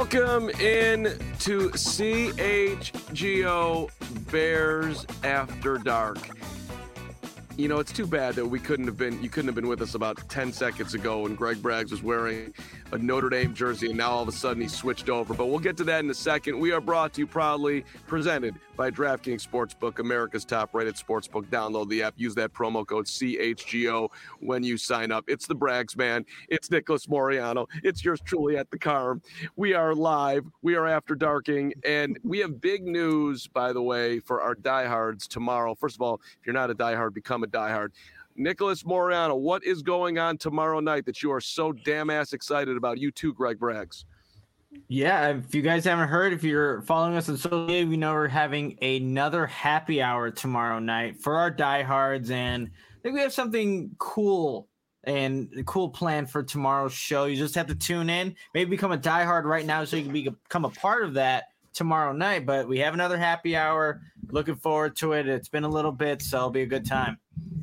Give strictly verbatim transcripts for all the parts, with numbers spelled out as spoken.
Welcome in to C H G O Bears After Dark. You know, it's too bad that we couldn't have been, you couldn't have been with us about ten seconds ago when Greg Braggs was wearing a Notre Dame jersey, and now all of a sudden he's switched over. But we'll get to that in a second. We are brought to you proudly, presented by DraftKings Sportsbook, America's top-rated sportsbook. Download the app. Use that promo code C H G O when you sign up. It's the Braggs, man. It's Nicholas Moriano. It's yours truly at the Carm. We are live. We are after darking, and we have big news, by the way, for our diehards tomorrow. First of all, if you're not a diehard, become a diehard. Nicholas Moriano, what is going on tomorrow night that you are so damn ass excited about? You too, Greg Braggs. Yeah, if you guys haven't heard, if you're following us on social media, we know we're having another happy hour tomorrow night for our diehards, and I think we have something cool and a cool plan for tomorrow's show. You just have to tune in, maybe become a diehard right now so you can become a part of that tomorrow night. But we have another happy hour. Looking forward to it. It's been a little bit, so it'll be a good time.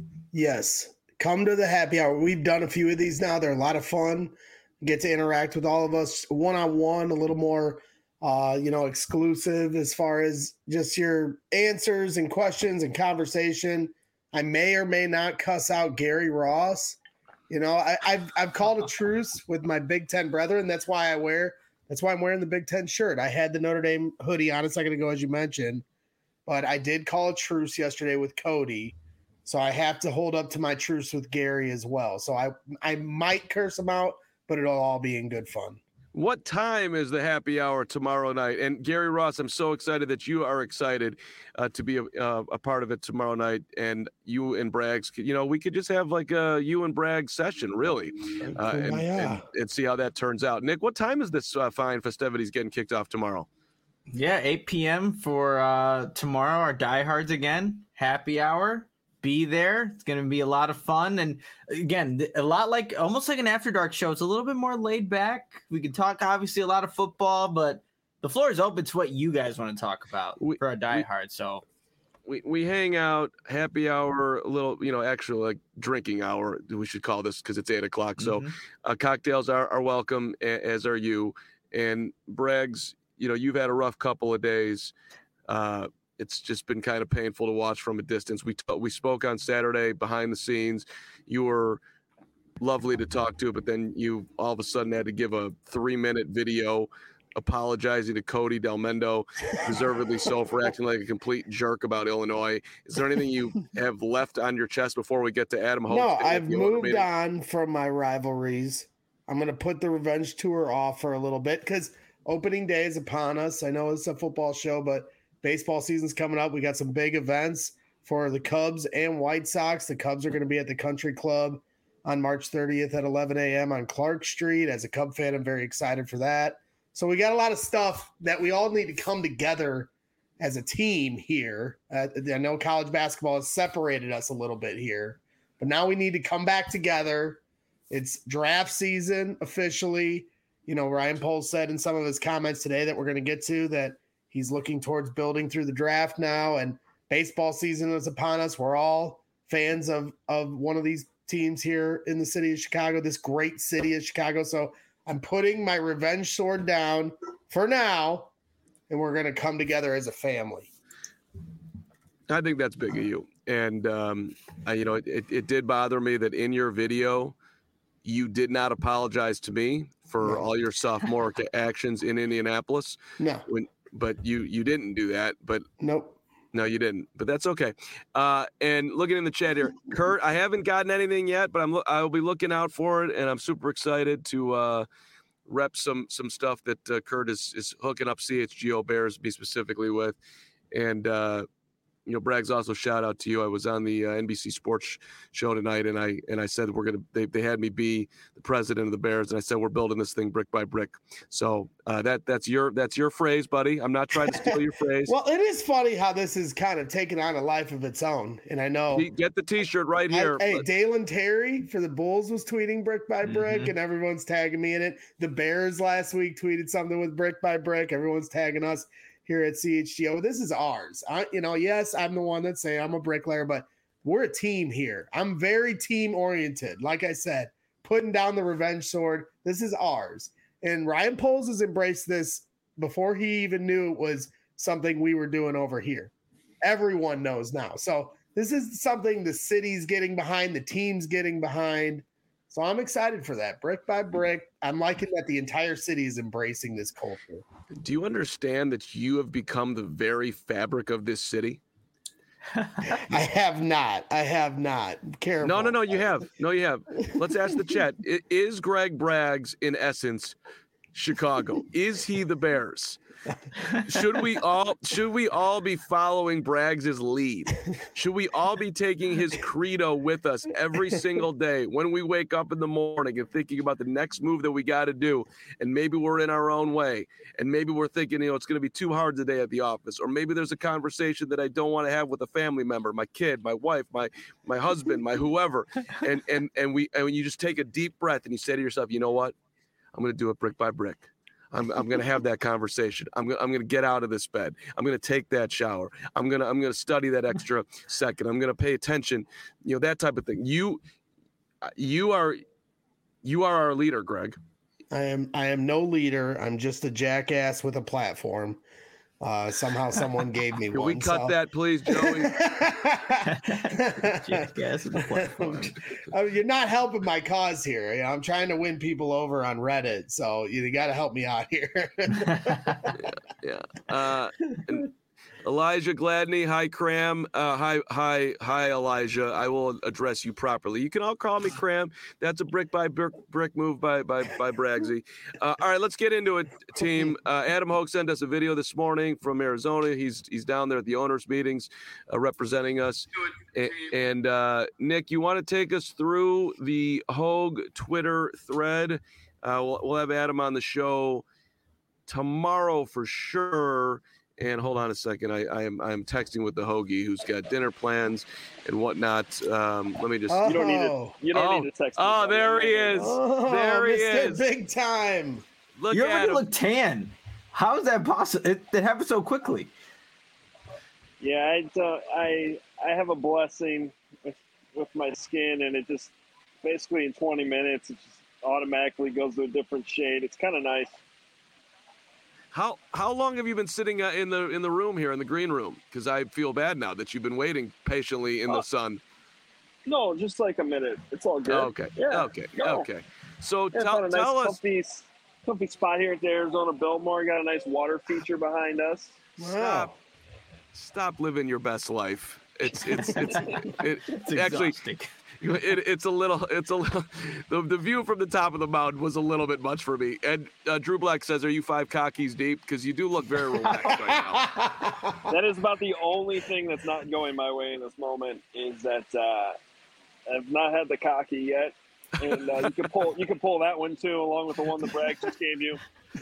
Yes, come to the happy hour. We've done a few of these now. They're a lot of fun. Get to interact with all of us one-on-one, a little more, uh, you know, exclusive as far as just your answers and questions and conversation. I may or may not cuss out Gary Ross. You know, I, I've I've called a truce with my Big Ten brethren. That's why I wear. That's why I'm wearing the Big Ten shirt. I had the Notre Dame hoodie on a second ago, as you mentioned, but I did call a truce yesterday with Cody. So I have to hold up to my truce with Gary as well. So I I might curse him out, but it'll all be in good fun. What time is the happy hour tomorrow night? And Gary Ross, I'm so excited that you are excited uh, to be a, uh, a part of it tomorrow night. And you and Braggs, you know, we could just have like a you and Braggs session, really, uh, and, and, and see how that turns out. Nick, what time is this uh, fine festivities getting kicked off tomorrow? Yeah, eight p.m. for uh, tomorrow, our diehards again, happy hour. Be there. It's going to be a lot of fun. And again, a lot like almost like an After Dark show. It's a little bit more laid back. We can talk, obviously, a lot of football, but the floor is open to what you guys want to talk about we, for our diehard. So we, we hang out, happy hour, a little, you know, actually like drinking hour, we should call this because it's eight o'clock. So mm-hmm. uh, cocktails are, are welcome, as are you. And Braggs, you know, you've had a rough couple of days. Uh, It's just been kind of painful to watch from a distance. We t- we spoke on Saturday behind the scenes. You were lovely to talk to, but then you all of a sudden had to give a three-minute video apologizing to Cody Delmendo, deservedly so, for acting like a complete jerk about Illinois. Is there anything you have left on your chest before we get to Adam Hope? No, I've moved on from my rivalries. I'm going to put the revenge tour off for a little bit because opening day is upon us. I know it's a football show, but baseball season's coming up. We got some big events for the Cubs and White Sox. The Cubs are going to be at the Country Club on March thirtieth at eleven a.m. on Clark Street. As a Cub fan, I'm very excited for that. So we got a lot of stuff that we all need to come together as a team here. Uh, I know college basketball has separated us a little bit here, but now we need to come back together. It's draft season officially. You know, Ryan Poles said in some of his comments today that we're going to get to that he's looking towards building through the draft now, and baseball season is upon us. We're all fans of, of one of these teams here in the city of Chicago, this great city of Chicago. So I'm putting my revenge sword down for now, and we're going to come together as a family. I think that's big of you. And, um, I, you know, it, it, it did bother me that in your video, you did not apologize to me for no. all your sophomore actions in Indianapolis. No. When, But you you didn't do that. But nope. No, you didn't. But that's okay. Uh, and looking in the chat here, Kurt, I haven't gotten anything yet, but I'm lo- I'll be looking out for it, and I'm super excited to uh, rep some some stuff that uh, Kurt is is hooking up C H G O Bears, be specifically with, and. Uh, You know, Braggs, also shout out to you. I was on the uh, N B C Sports show tonight, and I and I said we're gonna. They they had me be the president of the Bears, and I said we're building this thing brick by brick. So uh, that that's your that's your phrase, buddy. I'm not trying to steal your phrase. Well, it is funny how this is kind of taken on a life of its own, and I know. Get the T-shirt right here. I, hey, Dalen Terry for the Bulls was tweeting brick by brick, mm-hmm. and everyone's tagging me in it. The Bears last week tweeted something with brick by brick. Everyone's tagging us here at C H G O. This is ours. I, you know, yes, I'm the one that's saying I'm a bricklayer, but we're a team here. I'm very team oriented. Like I said, putting down the revenge sword. This is ours. And Ryan Poles has embraced this before he even knew it was something we were doing over here. Everyone knows now. So this is something the city's getting behind, the team's getting behind. So I'm excited for that. Brick by brick, I'm liking that the entire city is embracing this culture. Do you understand that you have become the very fabric of this city? I have not. I have not. Careful. No, no, no, you have. No, you have. Let's ask the chat. I- Is Greg Braggs, in essence, Chicago? Is he the Bears? Should we all should we all be following Braggs' lead? Should we all be taking his credo with us every single day when we wake up in the morning and thinking about the next move that we got to do? And maybe we're in our own way, and maybe we're thinking, you know, it's going to be too hard today at the office, or maybe there's a conversation that I don't want to have with a family member, my kid, my wife, my my husband, my whoever, and and and we and you just take a deep breath and you say to yourself, you know what? I'm going to do it brick by brick. I'm I'm gonna have that conversation. I'm gonna I'm gonna get out of this bed. I'm gonna take that shower. I'm gonna I'm gonna study that extra second. I'm gonna pay attention. You know, that type of thing. You you are you are our leader, Greg. I am I am no leader. I'm just a jackass with a platform. Uh, somehow someone gave me Can one. we cut so. that, please, Joey? Jackass with a platform. I mean, you're not helping my cause here. You know, I'm trying to win people over on Reddit, so you got to help me out here. yeah. yeah. Uh, and Elijah Gladney, hi Cram, uh, hi, hi, hi Elijah. I will address you properly. You can all call me Cram. That's a brick by brick, brick move by by by Braggsy. Uh, all right, let's get into it, team. Uh, Adam Hoke sent us a video this morning from Arizona. He's he's down there at the owners' meetings, uh, representing us. And, and uh, Nick, you want to take us through the Hogue Twitter thread? Uh, we'll, we'll have Adam on the show tomorrow for sure. And hold on a second. I, I am I am texting with the Hoagie, who's got dinner plans and whatnot. Um, let me just. Oh. You don't need to. You don't Oh. need to text. Oh, me. there he is. Oh, There he missed it is. big time. Look You at already him. look tan. How is that possible? It, it happened so quickly. Yeah, I, uh, I I have a blessing with, with my skin, and it just basically in twenty minutes, it just automatically goes to a different shade. It's kind of nice. How how long have you been sitting uh, in the in the room here in the green room? Because I feel bad now that you've been waiting patiently in the Uh, sun. No, just like a minute. It's all good. Okay. Yeah. Okay. No. Okay. So Yeah, tell found a nice tell us. comfy, comfy spot here at the Arizona Biltmore. Got a nice water feature behind us. Stop. Stop living your best life. It's it's it's it, It's actually exhausting. it, it's a little it's a little the, the view from the top of the mountain was a little bit much for me. And uh, Drew Black says, "Are you five cockies deep? Because you do look very relaxed right now." That is about the only thing that's not going my way in this moment. Is that uh, I've not had the cocky yet, and uh, you can pull you can pull that one too, along with the one that Bragg just gave you.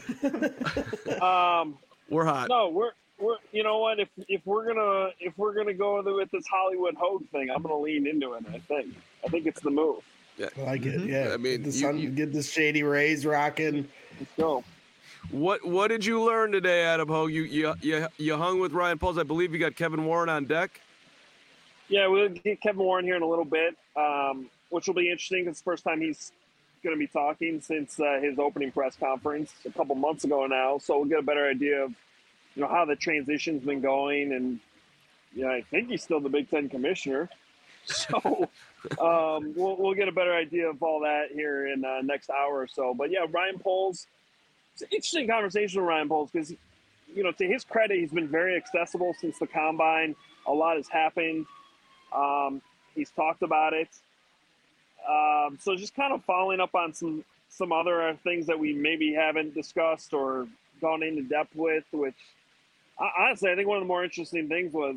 Um, We're hot. no, we're we're you know what? If if we're gonna if we're gonna go with this Hollywood Hogue thing, I'm gonna lean into it. I think I think it's the move. I like it. Mhm. Yeah. I mean, get the, you- sun, you- get the shady rays rocking. Let's go. What what did you learn today, Adam Hogue? You you you you hung with Ryan Poles. I believe you got Kevin Warren on deck. Yeah, we'll get Kevin Warren here in a little bit, um, which will be interesting. It's the first time he's going to be talking since uh, his opening press conference a couple months ago now. So we'll get a better idea of, you know, how the transition's been going. And, you know, I think he's still the Big Ten commissioner. So um, we'll, we'll get a better idea of all that here in uh, next hour or so. But, yeah, Ryan Poles, it's an interesting conversation with Ryan Poles because, you know, to his credit, he's been very accessible since the Combine. A lot has happened. Um, he's talked about it. Um, so just kind of following up on some, some other things that we maybe haven't discussed or gone into depth with, which uh, honestly, I think one of the more interesting things was,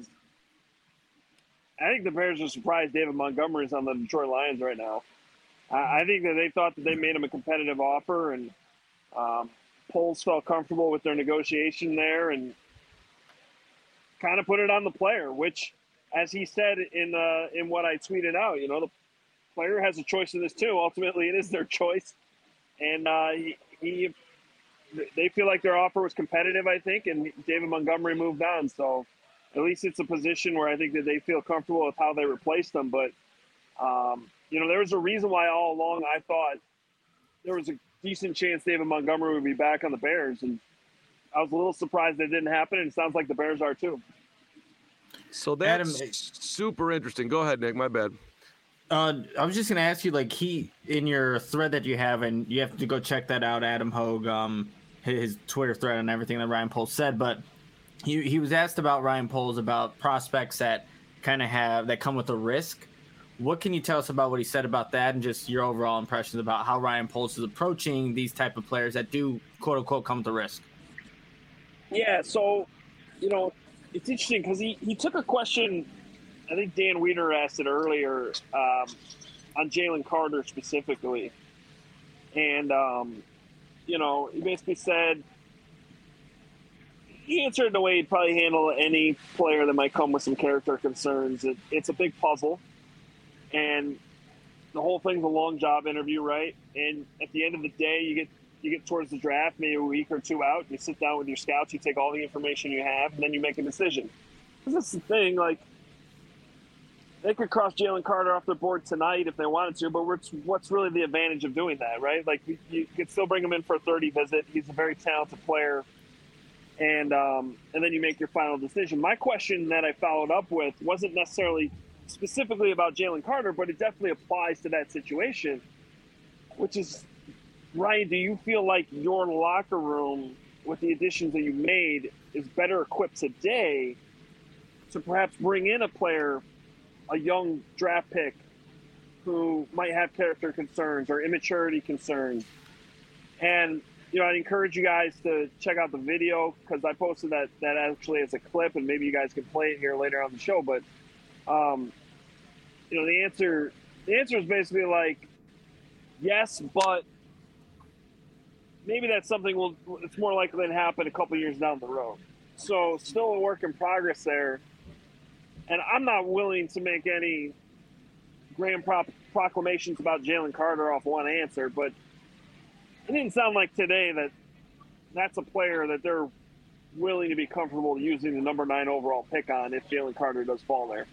I think the Bears are surprised David Montgomery is on the Detroit Lions right now. I, I think that they thought that they made him a competitive offer, and um, Poles felt comfortable with their negotiation there and kind of put it on the player, which, as he said in uh, in what I tweeted out, you know, the player has a choice in this too. Ultimately, it is their choice, and uh, he, he they feel like their offer was competitive, I think, and David Montgomery moved on. So at least it's a position where I think that they feel comfortable with how they replaced them. But um, you know, there was a reason why all along I thought there was a decent chance David Montgomery would be back on the Bears, and I was a little surprised that didn't happen, and it sounds like the Bears are too. So that's Adam, super interesting. Go ahead, Nick. My bad. Uh, I was just gonna ask you, like, he in your thread that you have, and you have to go check that out, Adam Hogue, um, his Twitter thread and everything that Ryan Poles said. But he he was asked about Ryan Poles about prospects that kind of have that come with a risk. What can you tell us about what he said about that, and just your overall impressions about how Ryan Poles is approaching these type of players that do quote unquote come with a risk? Yeah, so you know, it's interesting because he he took a question. I think Dan Weiner asked it earlier um, on Jalen Carter specifically. And, um, you know, he basically said he answered it the way he'd probably handle any player that might come with some character concerns. It, it's a big puzzle. And the whole thing's a long job interview, right? And at the end of the day, you get you get towards the draft, maybe a week or two out, you sit down with your scouts, you take all the information you have, and then you make a decision. Because that's the thing, like, they could cross Jalen Carter off the board tonight if they wanted to, but what's, what's really the advantage of doing that, right? Like, you, you could still bring him in for a thirty visit. He's a very talented player. And um, and then you make your final decision. My question that I followed up with wasn't necessarily specifically about Jalen Carter, but it definitely applies to that situation, which is, Ryan, do you feel like your locker room, with the additions that you made, is better equipped today to perhaps bring in a player, a young draft pick who might have character concerns or immaturity concerns? And, you know, I'd encourage you guys to check out the video because I posted that, that actually as a clip, and maybe you guys can play it here later on the show. But, um, you know, the answer, the answer is basically like, yes, but maybe that's something will, it's more likely to happen a couple years down the road. So still a work in progress there. And I'm not willing to make any grand pro- proclamations about Jalen Carter off one answer, but it didn't sound like today that that's a player that they're willing to be comfortable using the number nine overall pick on if Jalen Carter does fall there.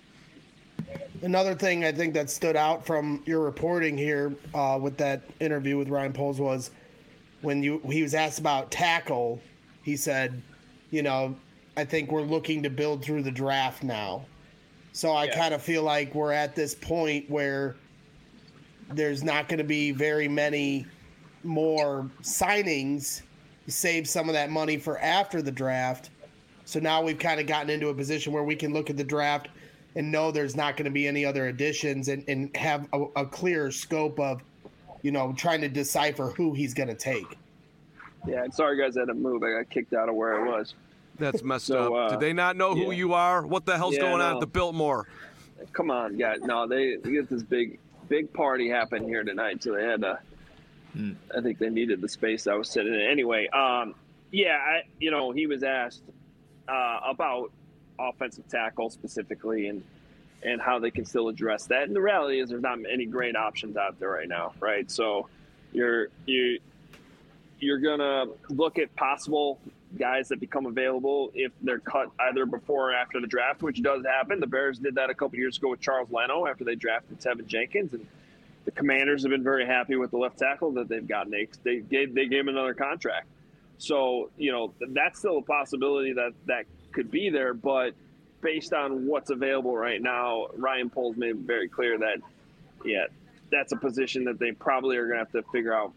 Another thing I think that stood out from your reporting here uh, with that interview with Ryan Poles was when you he was asked about tackle, he said, you know, I think we're looking to build through the draft now. So I yeah. kind of feel like we're at this point where there's not going to be very many more signings. Save some of that money for after the draft. So now we've kind of gotten into a position where we can look at the draft and know there's not going to be any other additions and, and have a, a clearer scope of, you know, trying to decipher who he's going to take. Yeah, and sorry, guys, I had to move. I got kicked out of where I was. That's messed so, up. Uh, Did they not know who yeah. you are? What the hell's yeah, going no. on at the Biltmore? Come on, guys. No, they, they get this big, big party happen here tonight, so they had to. Hmm. I think they needed the space I was sitting in. Anyway, um, yeah, I, you know, he was asked uh, about offensive tackle specifically and and how they can still address that. And the reality is, there's not any great options out there right now, right? So you're you you're gonna look at possible guys that become available if they're cut either before or after the draft, which does happen. The Bears did that a couple years ago with Charles Leno after they drafted Tevin Jenkins, and the Commanders have been very happy with the left tackle that they've gotten. They they gave they gave him another contract, so you know that's still a possibility that that could be there. But based on what's available right now, Ryan Poles made it very clear that yeah, that's a position that they probably are going to have to figure out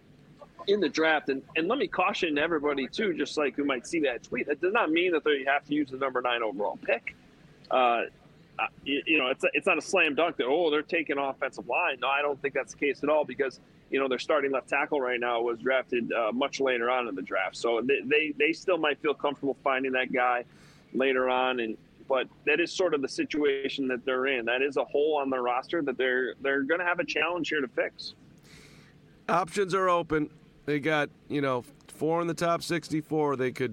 in the draft. And and let me caution everybody too, just like who might see that tweet, that does not mean that they have to use the number nine overall pick. Uh, Uh, you, you know, it's a, it's not a slam dunk that, oh, they're taking offensive line. No, I don't think that's the case at all because, you know, their starting left tackle right now was drafted uh, much later on in the draft. So they, they, they still might feel comfortable finding that guy later on. And but that is sort of the situation that they're in. That is a hole on their roster that they're they're going to have a challenge here to fix. Options are open. They got, you know, four in the top sixty-four. They could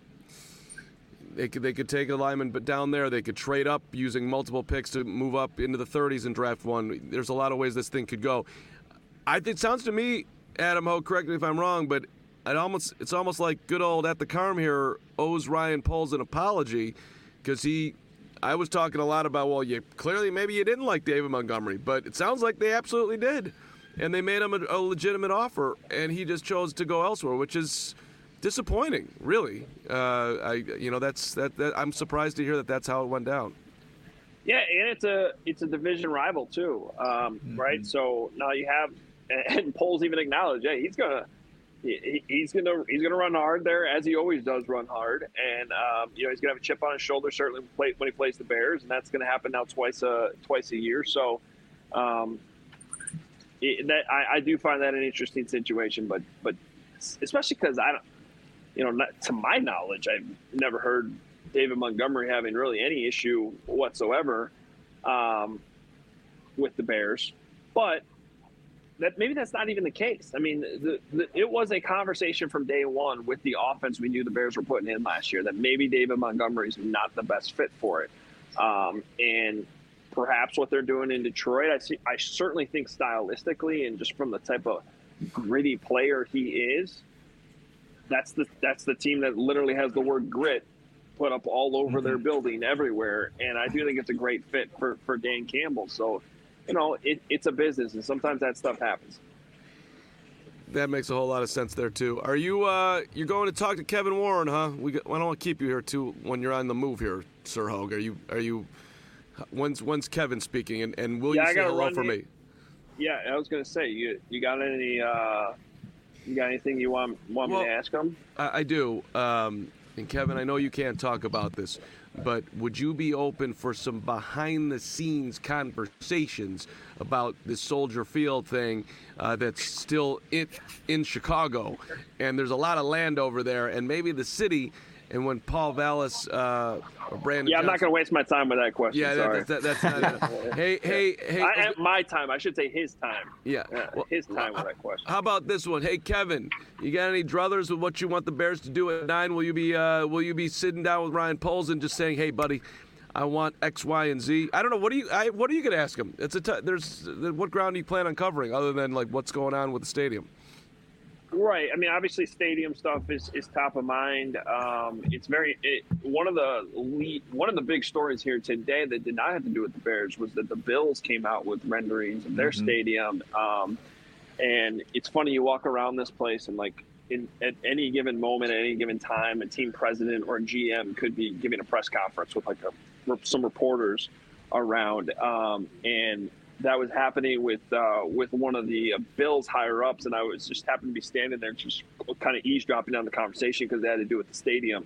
They could they could take a lineman, but down there they could trade up using multiple picks to move up into the thirties and draft one. There's a lot of ways this thing could go. I think it sounds to me, Adam Ho, correct me if I'm wrong, but it almost it's almost like good old At the Carm here owes Ryan Poles an apology because he. I was talking a lot about well, you clearly maybe you didn't like David Montgomery, but it sounds like they absolutely did. and they made him a, a legitimate offer, and he just chose to go elsewhere, which is disappointing, really. Uh, I, you know, that's that, that. I'm surprised to hear that that's how it went down. Yeah, and it's a it's a division rival too, um, mm-hmm. right? So now you have, and Poles even acknowledged, yeah, he's gonna. He, he's gonna he's gonna run hard there, as he always does run hard, and um, you know he's gonna have a chip on his shoulder certainly when he plays the Bears, and that's gonna happen now twice a twice a year. So um, it, that I, I do find that an interesting situation, but but especially because I don't, you know, not, to my knowledge, I've never heard David Montgomery having really any issue whatsoever um, with the Bears, but. That maybe that's not even the case. I mean, the, the, it was a conversation from day one with the offense we knew the Bears were putting in last year that maybe David Montgomery's not the best fit for it. Um, and perhaps what they're doing in Detroit, I see, I certainly think stylistically and just from the type of gritty player he is, that's the that's the team that literally has the word grit put up all over mm-hmm. their building everywhere. And I do think it's a great fit for, for Dan Campbell. So, you know, it, it's a business, and sometimes that stuff happens. That makes a whole lot of sense there too. Are you uh, you're going to talk to Kevin Warren, huh? We got, I don't want to keep you here too when you're on the move here, Sir Hogue. Are you are you? When's when's Kevin speaking, and, and will yeah, you say hello for here. me? Yeah, I was going to say you you got any uh, you got anything you want want well, me to ask him? I, I do. Um, and Kevin, I know you can't talk about this, but would you be open for some behind-the-scenes conversations about this Soldier Field thing uh, that's still in, in Chicago? And there's a lot of land over there, and maybe the city, and when Paul Vallis uh, or Brandon Yeah, I'm Johnson, not going to waste my time with that question, yeah, sorry. That, that, that's not it. Hey, hey, hey. I, my time. I should say his time. Yeah. yeah well, his time with that question. How about this one? Hey, Kevin, you got any druthers with what you want the Bears to do at nine? Will you be uh, Will you be sitting down with Ryan Poles and just saying, "Hey, buddy, I want X, Y, and Z"? I don't know. What do you I, What are you going to ask him? It's a t- there's what ground do you plan on covering other than like what's going on with the stadium? Right. I mean, obviously, stadium stuff is, is top of mind. Um, it's very it, one of the lead, one of the big stories here today that did not have to do with the Bears was that the Bills came out with renderings of their mm-hmm. stadium. Um, and it's funny, you walk around this place and like in, at any given moment, at any given time, a team president or a G M could be giving a press conference with like a, some reporters around. Um, and that was happening with uh, with one of the uh, Bills higher ups, and I was just happened to be standing there, just kind of eavesdropping on the conversation because they had to do with the stadium.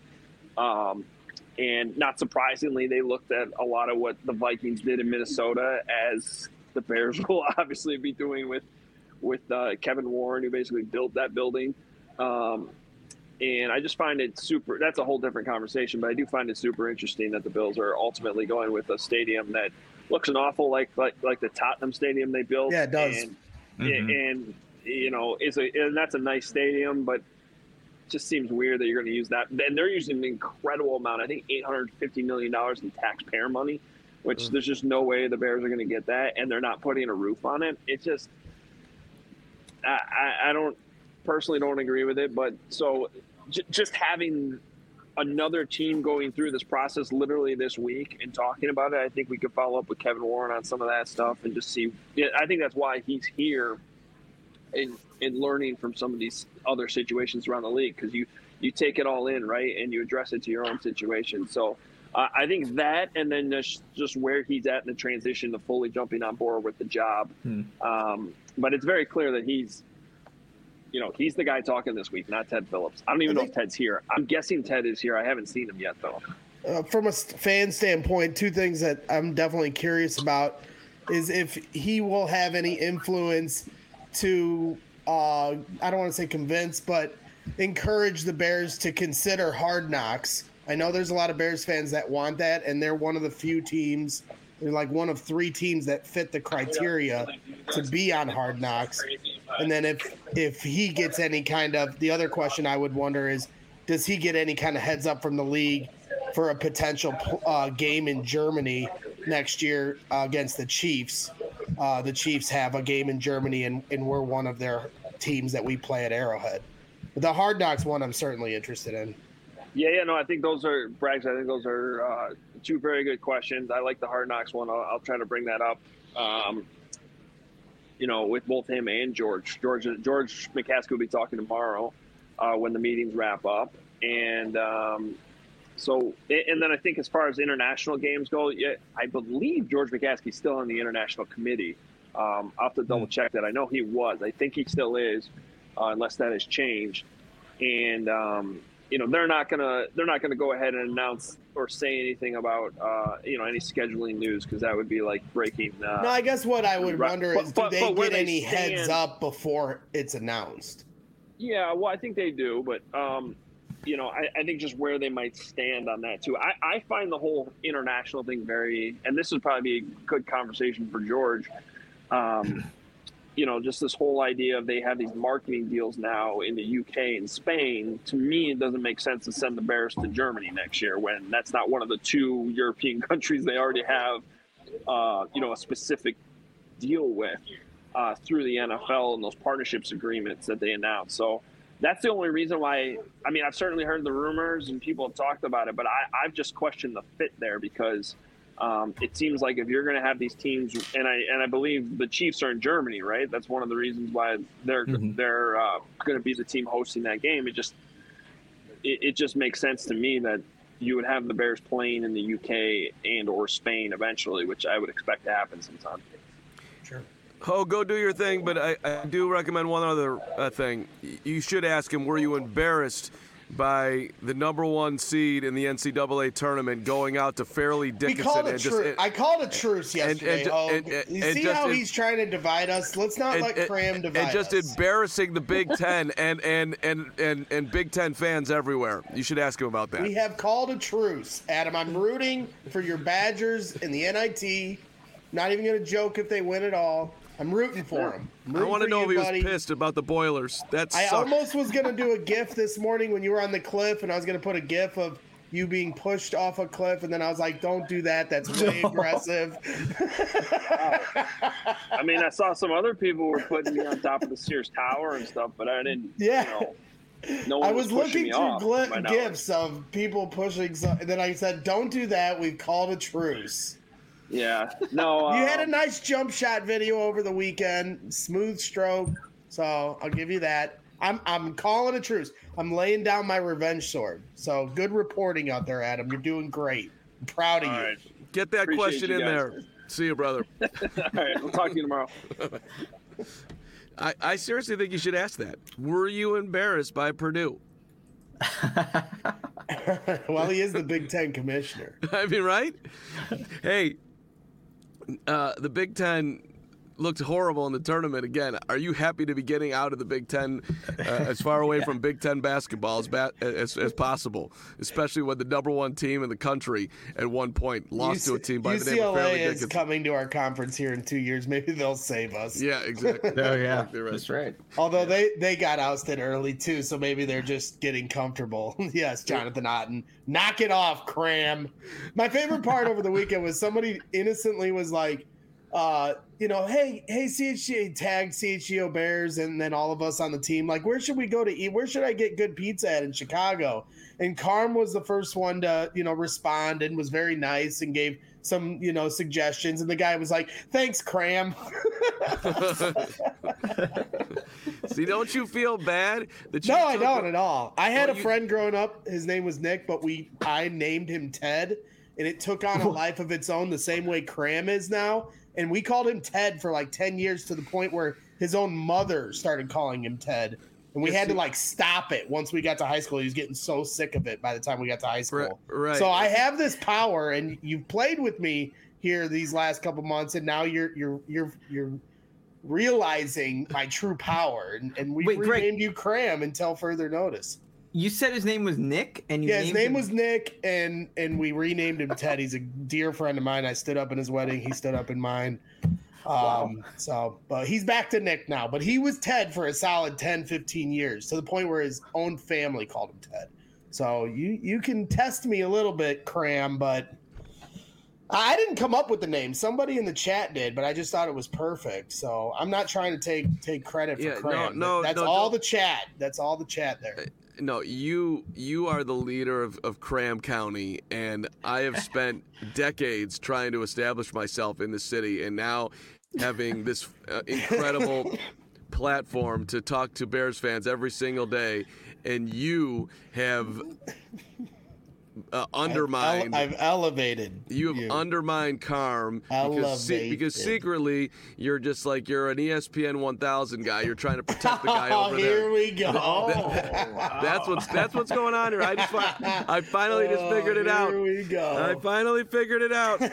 Um, and not surprisingly, they looked at a lot of what the Vikings did in Minnesota, as the Bears will obviously be doing with with uh, Kevin Warren, who basically built that building. Um, and I just find it super. That's a whole different conversation, but I do find it super interesting that the Bills are ultimately going with a stadium that looks an awful like like like the Tottenham Stadium they built. Yeah, it does. And, mm-hmm. and you know, it's a and that's a nice stadium, but it just seems weird that you're going to use that. And they're using an incredible amount. I think eight hundred fifty million dollars in taxpayer money, which mm-hmm. there's just no way the Bears are going to get that, and they're not putting a roof on it. It just, I I, I don't personally don't agree with it. But so j- just having another team going through this process literally this week and talking about it, I think we could follow up with Kevin Warren on some of that stuff and just see. Yeah, I think that's why he's here in in learning from some of these other situations around the league, because you you take it all in, right, and you address it to your own situation. So uh, I think that, and then just just where he's at in the transition to fully jumping on board with the job. Hmm. Um, but it's very clear that he's. You know, he's the guy talking this week, not Ted Phillips. I don't even I think, know if Ted's here. I'm guessing Ted is here. I haven't seen him yet, though. Uh, from a fan standpoint, two things that I'm definitely curious about is if he will have any influence to, uh, I don't want to say convince, but encourage the Bears to consider Hard Knocks. I know there's a lot of Bears fans that want that, and they're one of the few teams, they're like one of three teams that fit the criteria to be on Hard Knocks. And then if if he gets any kind of – the other question I would wonder is, does he get any kind of heads up from the league for a potential uh, game in Germany next year uh, against the Chiefs? Uh, the Chiefs have a game in Germany, and, and we're one of their teams that we play at Arrowhead. But the Hard Knocks one I'm certainly interested in. Yeah, yeah, no, I think those are – Braggs, I think those are uh, two very good questions. I like the Hard Knocks one. I'll, I'll try to bring that up. Um you know, with both him and George. George George McCaskey will be talking tomorrow uh, when the meetings wrap up. And um, so, and then I think as far as international games go, yeah, I believe George McCaskey's still on the international committee. Um, I'll have to double check that. I know he was. I think he still is, uh, unless that has changed. And um, you know, they're not gonna they're not gonna go ahead and announce or say anything about uh, you know, any scheduling news, because that would be like breaking. Uh, no, I guess what I would right. wonder but, is, but, do they but get they any stand, heads up before it's announced? Yeah, well, I think they do, but um, you know, I, I think just where they might stand on that too. I, I find the whole international thing very, and this would probably be a good conversation for George. Um, you know, just this whole idea of they have these marketing deals now in the U K and Spain. To me, it doesn't make sense to send the Bears to Germany next year when that's not one of the two European countries they already have, uh, you know, a specific deal with uh, through the N F L and those partnerships agreements that they announced. So that's the only reason why. I mean, I've certainly heard the rumors and people have talked about it, but I, I've just questioned the fit there, because Um, it seems like if you're going to have these teams, and I and I believe the Chiefs are in Germany, right? That's one of the reasons why they're mm-hmm. they're uh, going to be the team hosting that game. It just it, it just makes sense to me that you would have the Bears playing in the U K and or Spain eventually, which I would expect to happen sometime. Sure. Oh, go do your thing, but I, I do recommend one other uh, thing. You should ask him, were you embarrassed by the number one seed in the N C double A tournament going out to Fairleigh Dickinson? We called and a just, tru- and, I called a truce yesterday. and, and, oh, and, you and see just, how and, he's trying to divide us? Let's not and, let Cram divide us. And just us. embarrassing the Big Ten and, and, and, and, and Big Ten fans everywhere. You should ask him about that. We have called a truce, Adam. I'm rooting for your Badgers in the N I T. Not even going to joke if they win it all. I'm rooting for him. I want to know you, if he buddy. was pissed about the Boilers. That's I almost was going to do a GIF this morning when you were on the cliff, and I was going to put a GIF of you being pushed off a cliff, and then I was like, don't do that. That's way aggressive. I mean, I saw some other people were putting me on top of the Sears Tower and stuff, but I didn't, yeah. you know. No one I was, was looking through gl- GIFs GIFs of people pushing, so- and then I said, don't do that. We've called a truce. Yeah, no. You um, had a nice jump shot video over the weekend, smooth stroke. So I'll give you that. I'm I'm calling a truce. I'm laying down my revenge sword. So good reporting out there, Adam. You're doing great. I'm proud of all you. right. Get that Appreciate question you in guys. there. See you, brother. All right, we'll talk to you tomorrow. I, I seriously think you should ask that. Were you embarrassed by Purdue? Well, he is the Big Ten commissioner. I mean, right? Hey, uh, the Big Ten looked horrible in the tournament again. Are you happy to be getting out of the Big Ten uh, as far away yeah. from Big Ten basketball as, ba- as as possible, especially when the number one team in the country at one point lost U C- to a team by U C L A the name of Fairleigh is Dickinson? coming to our conference here in two years. Maybe they'll save us. Yeah, exactly. Oh, yeah. Exactly right. That's right. Although they, they got ousted early, too, so maybe they're just getting comfortable. Yes, Jonathan Otten. Knock it off, Cram. My favorite part over the weekend was somebody innocently was like, uh, you know, hey, hey, C H G O, tagged C H G O Bears, and then all of us on the team, like, where should we go to eat? Where should I get good pizza at in Chicago? And Carm was the first one to, you know, respond and was very nice and gave some, you know, suggestions. And the guy was like, thanks, Cram. See, don't you feel bad that you No, I took don't a- at all. I had Well, a you- friend growing up. His name was Nick, but we I named him Ted, and it took on a life of its own the same way Cram is now. And we called him Ted for like ten years to the point where his own mother started calling him Ted. And we Yes, had to he- like stop it once we got to high school. He was getting so sick of it by the time we got to high school. Right, right. So I have this power, and you've played with me here these last couple months, and now you're you're you're you're realizing my true power. And, and we Wait, Greg- renamed you Cram until further notice. You said his name was Nick, and you Yeah, his named name him- was Nick, and and we renamed him Ted. He's a dear friend of mine. I stood up in his wedding. He stood up in mine. Um, Wow. So, but he's back to Nick now. But he was Ted for a solid ten, fifteen years, to the point where his own family called him Ted. So you you can test me a little bit, Cram, but I didn't come up with the name. Somebody in the chat did, but I just thought it was perfect. So I'm not trying to take take credit for Yeah, no, Cram. no, That's no, all don't- the chat. That's all the chat there. No, you you are the leader of, of Cram County, and I have spent decades trying to establish myself in the city, and now having this uh, incredible platform to talk to Bears fans every single day, and you have uh, undermined. I've, ele- I've elevated. You have you. undermined Carm because, se- because secretly you're just like you're an E S P N one thousand guy. You're trying to protect the guy oh, over here there. we go. That- wow. That's what's that's what's going on here. I just I finally just figured it oh, out. Here we go. I finally figured it out.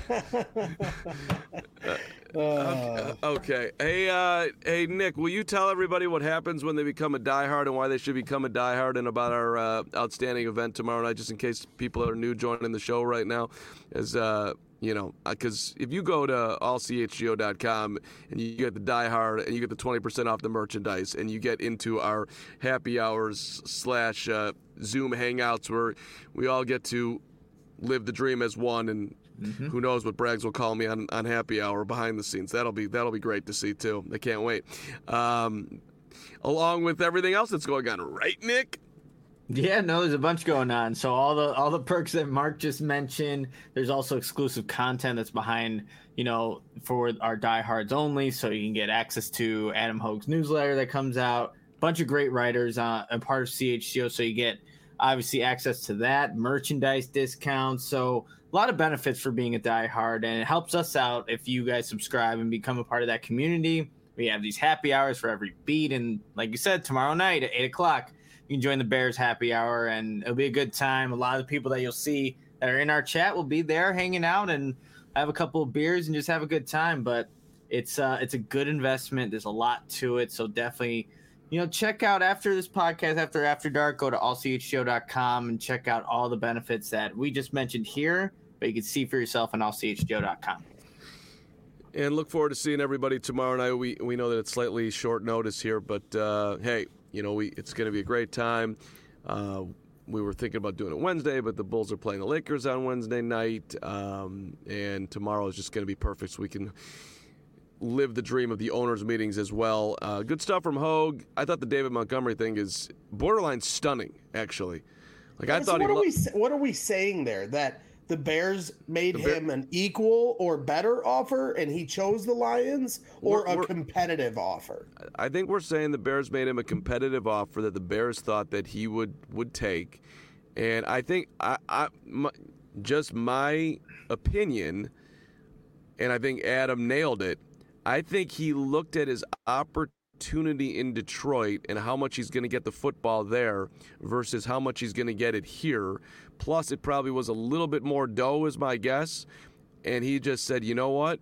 Uh, Okay. Hey, uh, hey, Nick, will you tell everybody what happens when they become a diehard and why they should become a diehard, and about our uh, outstanding event tomorrow night, just in case people are new joining the show right now? As uh, you know, because if you go to all c h g o dot com and you get the diehard and you get the twenty percent off the merchandise and you get into our happy hours slash uh, Zoom hangouts where we all get to live the dream as one, and mm-hmm. who knows what Braggs will call me on, on happy hour behind the scenes. That'll be that'll be great to see too. I can't wait. Um, along with everything else that's going on, right, Nick? Yeah, no, there's a bunch going on. So all the all the perks that Mark just mentioned. There's also exclusive content that's behind, you know, for our diehards only. So you can get access to Adam Hogue's newsletter that comes out. A bunch of great writers uh, and part of C H G O. So you get obviously access to that, merchandise discounts. So a lot of benefits for being a diehard, and it helps us out if you guys subscribe and become a part of that community. We have these happy hours for every beat, and like you said, tomorrow night at eight o'clock, you can join the Bears happy hour, and it'll be a good time. A lot of the people that you'll see that are in our chat will be there hanging out and have a couple of beers and just have a good time. But it's uh, it's a good investment. There's a lot to it, so definitely, you know, check out after this podcast, after After Dark, go to all c h g o dot com and check out all the benefits that we just mentioned here, but you can see for yourself on all c h g o dot com. And look forward to seeing everybody tomorrow night. We we know that it's slightly short notice here, but uh, hey, you know, we it's going to be a great time. Uh, we were thinking about doing it Wednesday, but the Bulls are playing the Lakers on Wednesday night, um, and tomorrow is just going to be perfect so we can live the dream of the owners' meetings as well. Uh, good stuff from Hogue. I thought the David Montgomery thing is borderline stunning, actually. Like I so thought. What he are lo- we What are we saying there? That the Bears made The Bear- him an equal or better offer, and he chose the Lions, or We're- a we're- competitive offer? I think we're saying the Bears made him a competitive offer that the Bears thought that he would, would take. And I think I, I my, just my opinion, and I think Adam nailed it, I think he looked at his opportunity in Detroit and how much he's going to get the football there versus how much he's going to get it here. Plus, it probably was a little bit more dough, is my guess. And he just said, you know what?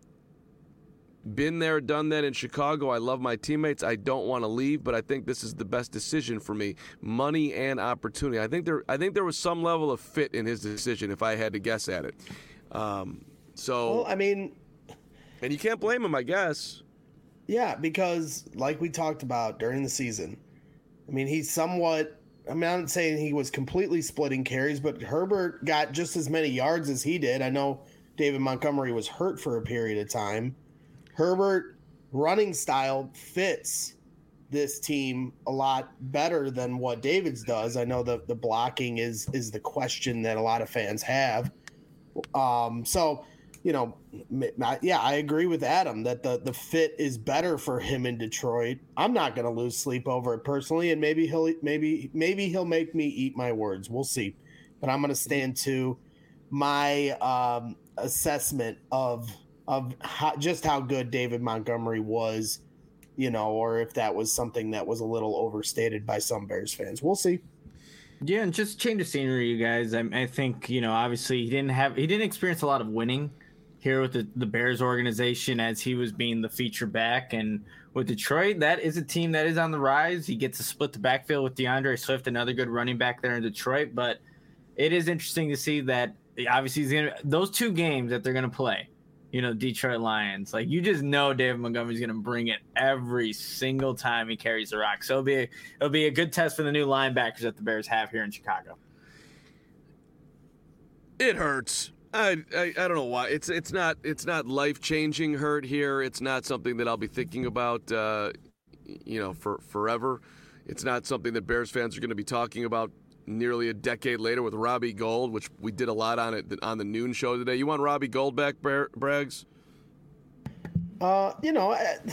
Been there, done that in Chicago. I love my teammates. I don't want to leave, but I think this is the best decision for me. Money and opportunity. I think there I think there was some level of fit in his decision, if I had to guess at it. Um, so, Well, I mean, and you can't blame him, I guess. yeah, because like we talked about during the season, I mean, he's somewhat. I mean, I'm not saying he was completely splitting carries, but Herbert got just as many yards as he did. I know David Montgomery was hurt for a period of time. Herbert running style fits this team a lot better than what David's does. I know the the blocking is is the question that a lot of fans have. Um, so, you know, yeah, I agree with Adam that the the fit is better for him in Detroit. I'm not going to lose sleep over it personally, and maybe he'll maybe maybe he'll make me eat my words. We'll see, but I'm going to stand to my um, assessment of. of how, just how good David Montgomery was, you know, or if that was something that was a little overstated by some Bears fans. We'll see. Yeah, and just change of scenery, you guys. I, I think, you know, obviously he didn't have he didn't experience a lot of winning here with the, the Bears organization as he was being the feature back. And with Detroit, that is a team that is on the rise. He gets to split the backfield with DeAndre Swift, another good running back there in Detroit. But it is interesting to see that obviously he's gonna, those two games that they're going to play, you know, Detroit Lions, like you just know David Montgomery's going to bring it every single time he carries the rock. So it'll be a, it'll be a good test for the new linebackers that the Bears have here in Chicago. It hurts. I, I I don't know why. It's it's not it's not life-changing hurt here. It's not something that I'll be thinking about, uh, you know, for forever. It's not something that Bears fans are going to be talking about nearly a decade later with Robbie Gould, which we did a lot on it on the noon show today. You want Robbie Gould back, Braggs? Uh, you know,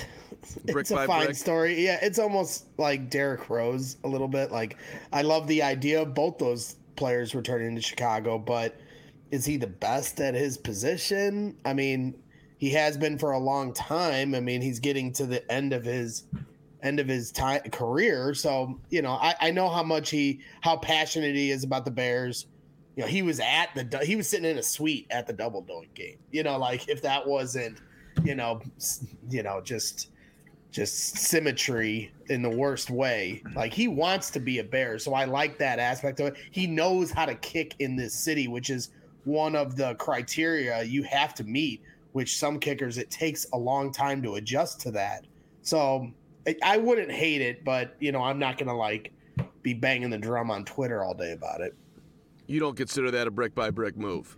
Brick it's a by fine brick. story. Yeah, it's almost like Derrick Rose a little bit. Like, I love the idea of both those players returning to Chicago, but is he the best at his position? I mean, he has been for a long time. I mean, he's getting to the end of his end of his time career. So, you know, I, I know how much he how passionate he is about the Bears. You know, he was at the he was sitting in a suite at the Double Doink game. You know, like if that wasn't, you know, you know, just just symmetry in the worst way. Like he wants to be a Bear, so I like that aspect of it. He knows how to kick in this city, which is one of the criteria you have to meet, which some kickers it takes a long time to adjust to that. So I, I wouldn't hate it, but you know, I'm not gonna like be banging the drum on Twitter all day about it. You don't consider that a brick by brick move?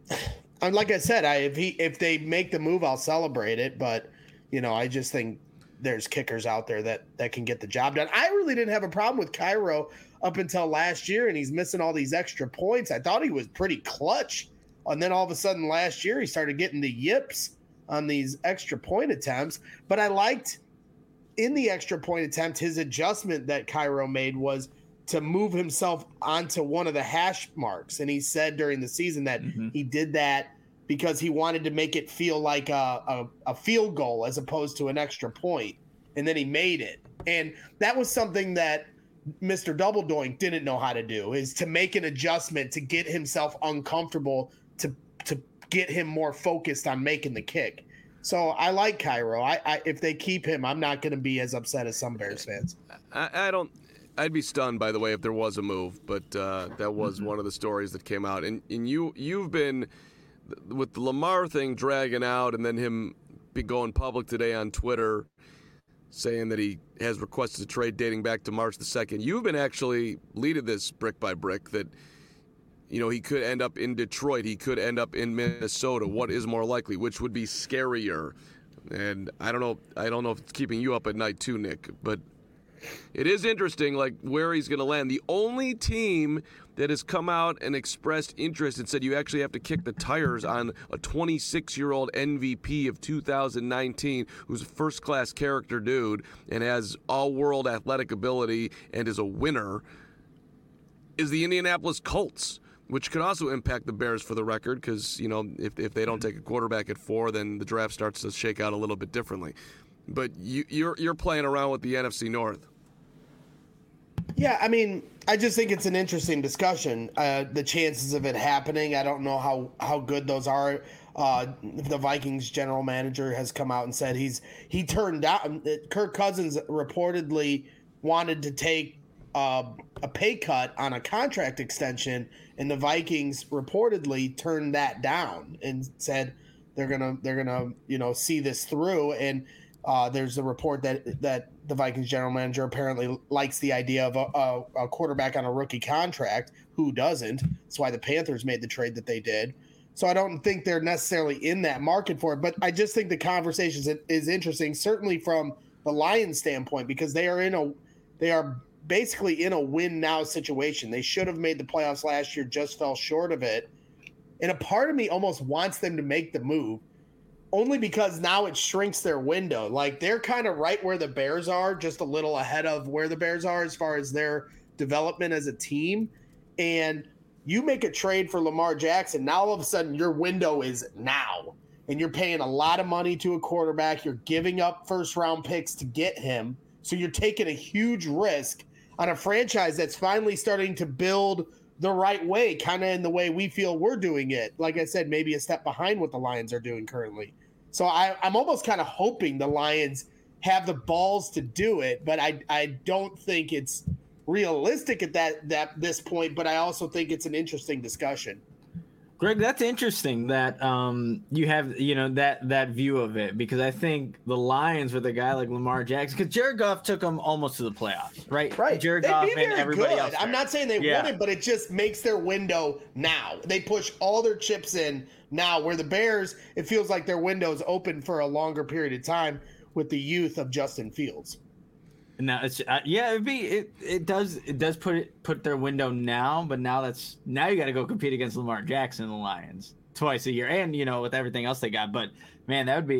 And like I said, I if he if they make the move, I'll celebrate it. But you know, I just think there's kickers out there that that can get the job done. I really didn't have a problem with Cairo up until last year, and he's missing all these extra points. I thought he was pretty clutch, and then all of a sudden last year he started getting the yips on these extra point attempts. But I liked in the extra point attempt his adjustment that Cairo made was to move himself onto one of the hash marks. And he said during the season that mm-hmm. he did that because he wanted to make it feel like a, a, a field goal as opposed to an extra point. And then he made it. And that was something that Mister Double Doink didn't know how to do, is to make an adjustment to get himself uncomfortable, to to get him more focused on making the kick. So I like Cairo. I, I if they keep him, I'm not going to be as upset as some Bears fans. I, I don't – I'd be stunned, by the way, if there was a move, but uh, that was mm-hmm. one of the stories that came out. And, and you, you've been, with the Lamar thing dragging out and then him be going public today on Twitter saying that he has requested a trade dating back to March the second, you've been actually leading this brick by brick that, you know, he could end up in Detroit, he could end up in Minnesota. What is more likely? Which would be scarier? And I don't know, I don't know if it's keeping you up at night too, Nick, but it is interesting, like, where he's going to land. The only team that has come out and expressed interest and said you actually have to kick the tires on a twenty-six-year-old M V P of two thousand nineteen who's a first-class character dude and has all-world athletic ability and is a winner is the Indianapolis Colts, which could also impact the Bears for the record because, you know, if, if they don't take a quarterback at four, then the draft starts to shake out a little bit differently. But you, you're you're playing around with the N F C North. Yeah, I mean, I just think it's an interesting discussion. Uh, the chances of it happening, I don't know how, how good those are. Uh, the Vikings general manager has come out and said he's he turned down. Kirk Cousins reportedly wanted to take uh, a pay cut on a contract extension, and the Vikings reportedly turned that down and said they're gonna they're gonna you know see this through. And Uh, there's a report that that the Vikings general manager apparently likes the idea of a, a, a quarterback on a rookie contract. Who doesn't? That's why the Panthers made the trade that they did. So I don't think they're necessarily in that market for it. But I just think the conversation is, is interesting, certainly from the Lions' standpoint, because they are in a they are basically in a win now situation. They should have made the playoffs last year, just fell short of it. And a part of me almost wants them to make the move, only because now it shrinks their window. Like, they're kind of right where the Bears are, just a little ahead of where the Bears are as far as their development as a team. And you make a trade for Lamar Jackson, now all of a sudden your window is now. And you're paying a lot of money to a quarterback. You're giving up first-round picks to get him. So you're taking a huge risk on a franchise that's finally starting to build the right way, kind of in the way we feel we're doing it. Like I said, maybe a step behind what the Lions are doing currently. So I, I'm almost kind of hoping the Lions have the balls to do it, but I I don't think it's realistic at that that this point. But I also think it's an interesting discussion. Greg, that's interesting that um, you have, you know, that that view of it, because I think the Lions with a guy like Lamar Jackson, because Jared Goff took them almost to the playoffs, right? Right. Jared They'd Goff be and very everybody good. else. I'm not saying they yeah. wouldn't, but it just makes their window now. They push all their chips in now, where the Bears, it feels like their window's open for a longer period of time with the youth of Justin Fields. Now it's uh, yeah, it'd be it. It does it does put it put their window now, but now that's now you got to go compete against Lamar Jackson and the Lions twice a year, and you know with everything else they got. But man, that would be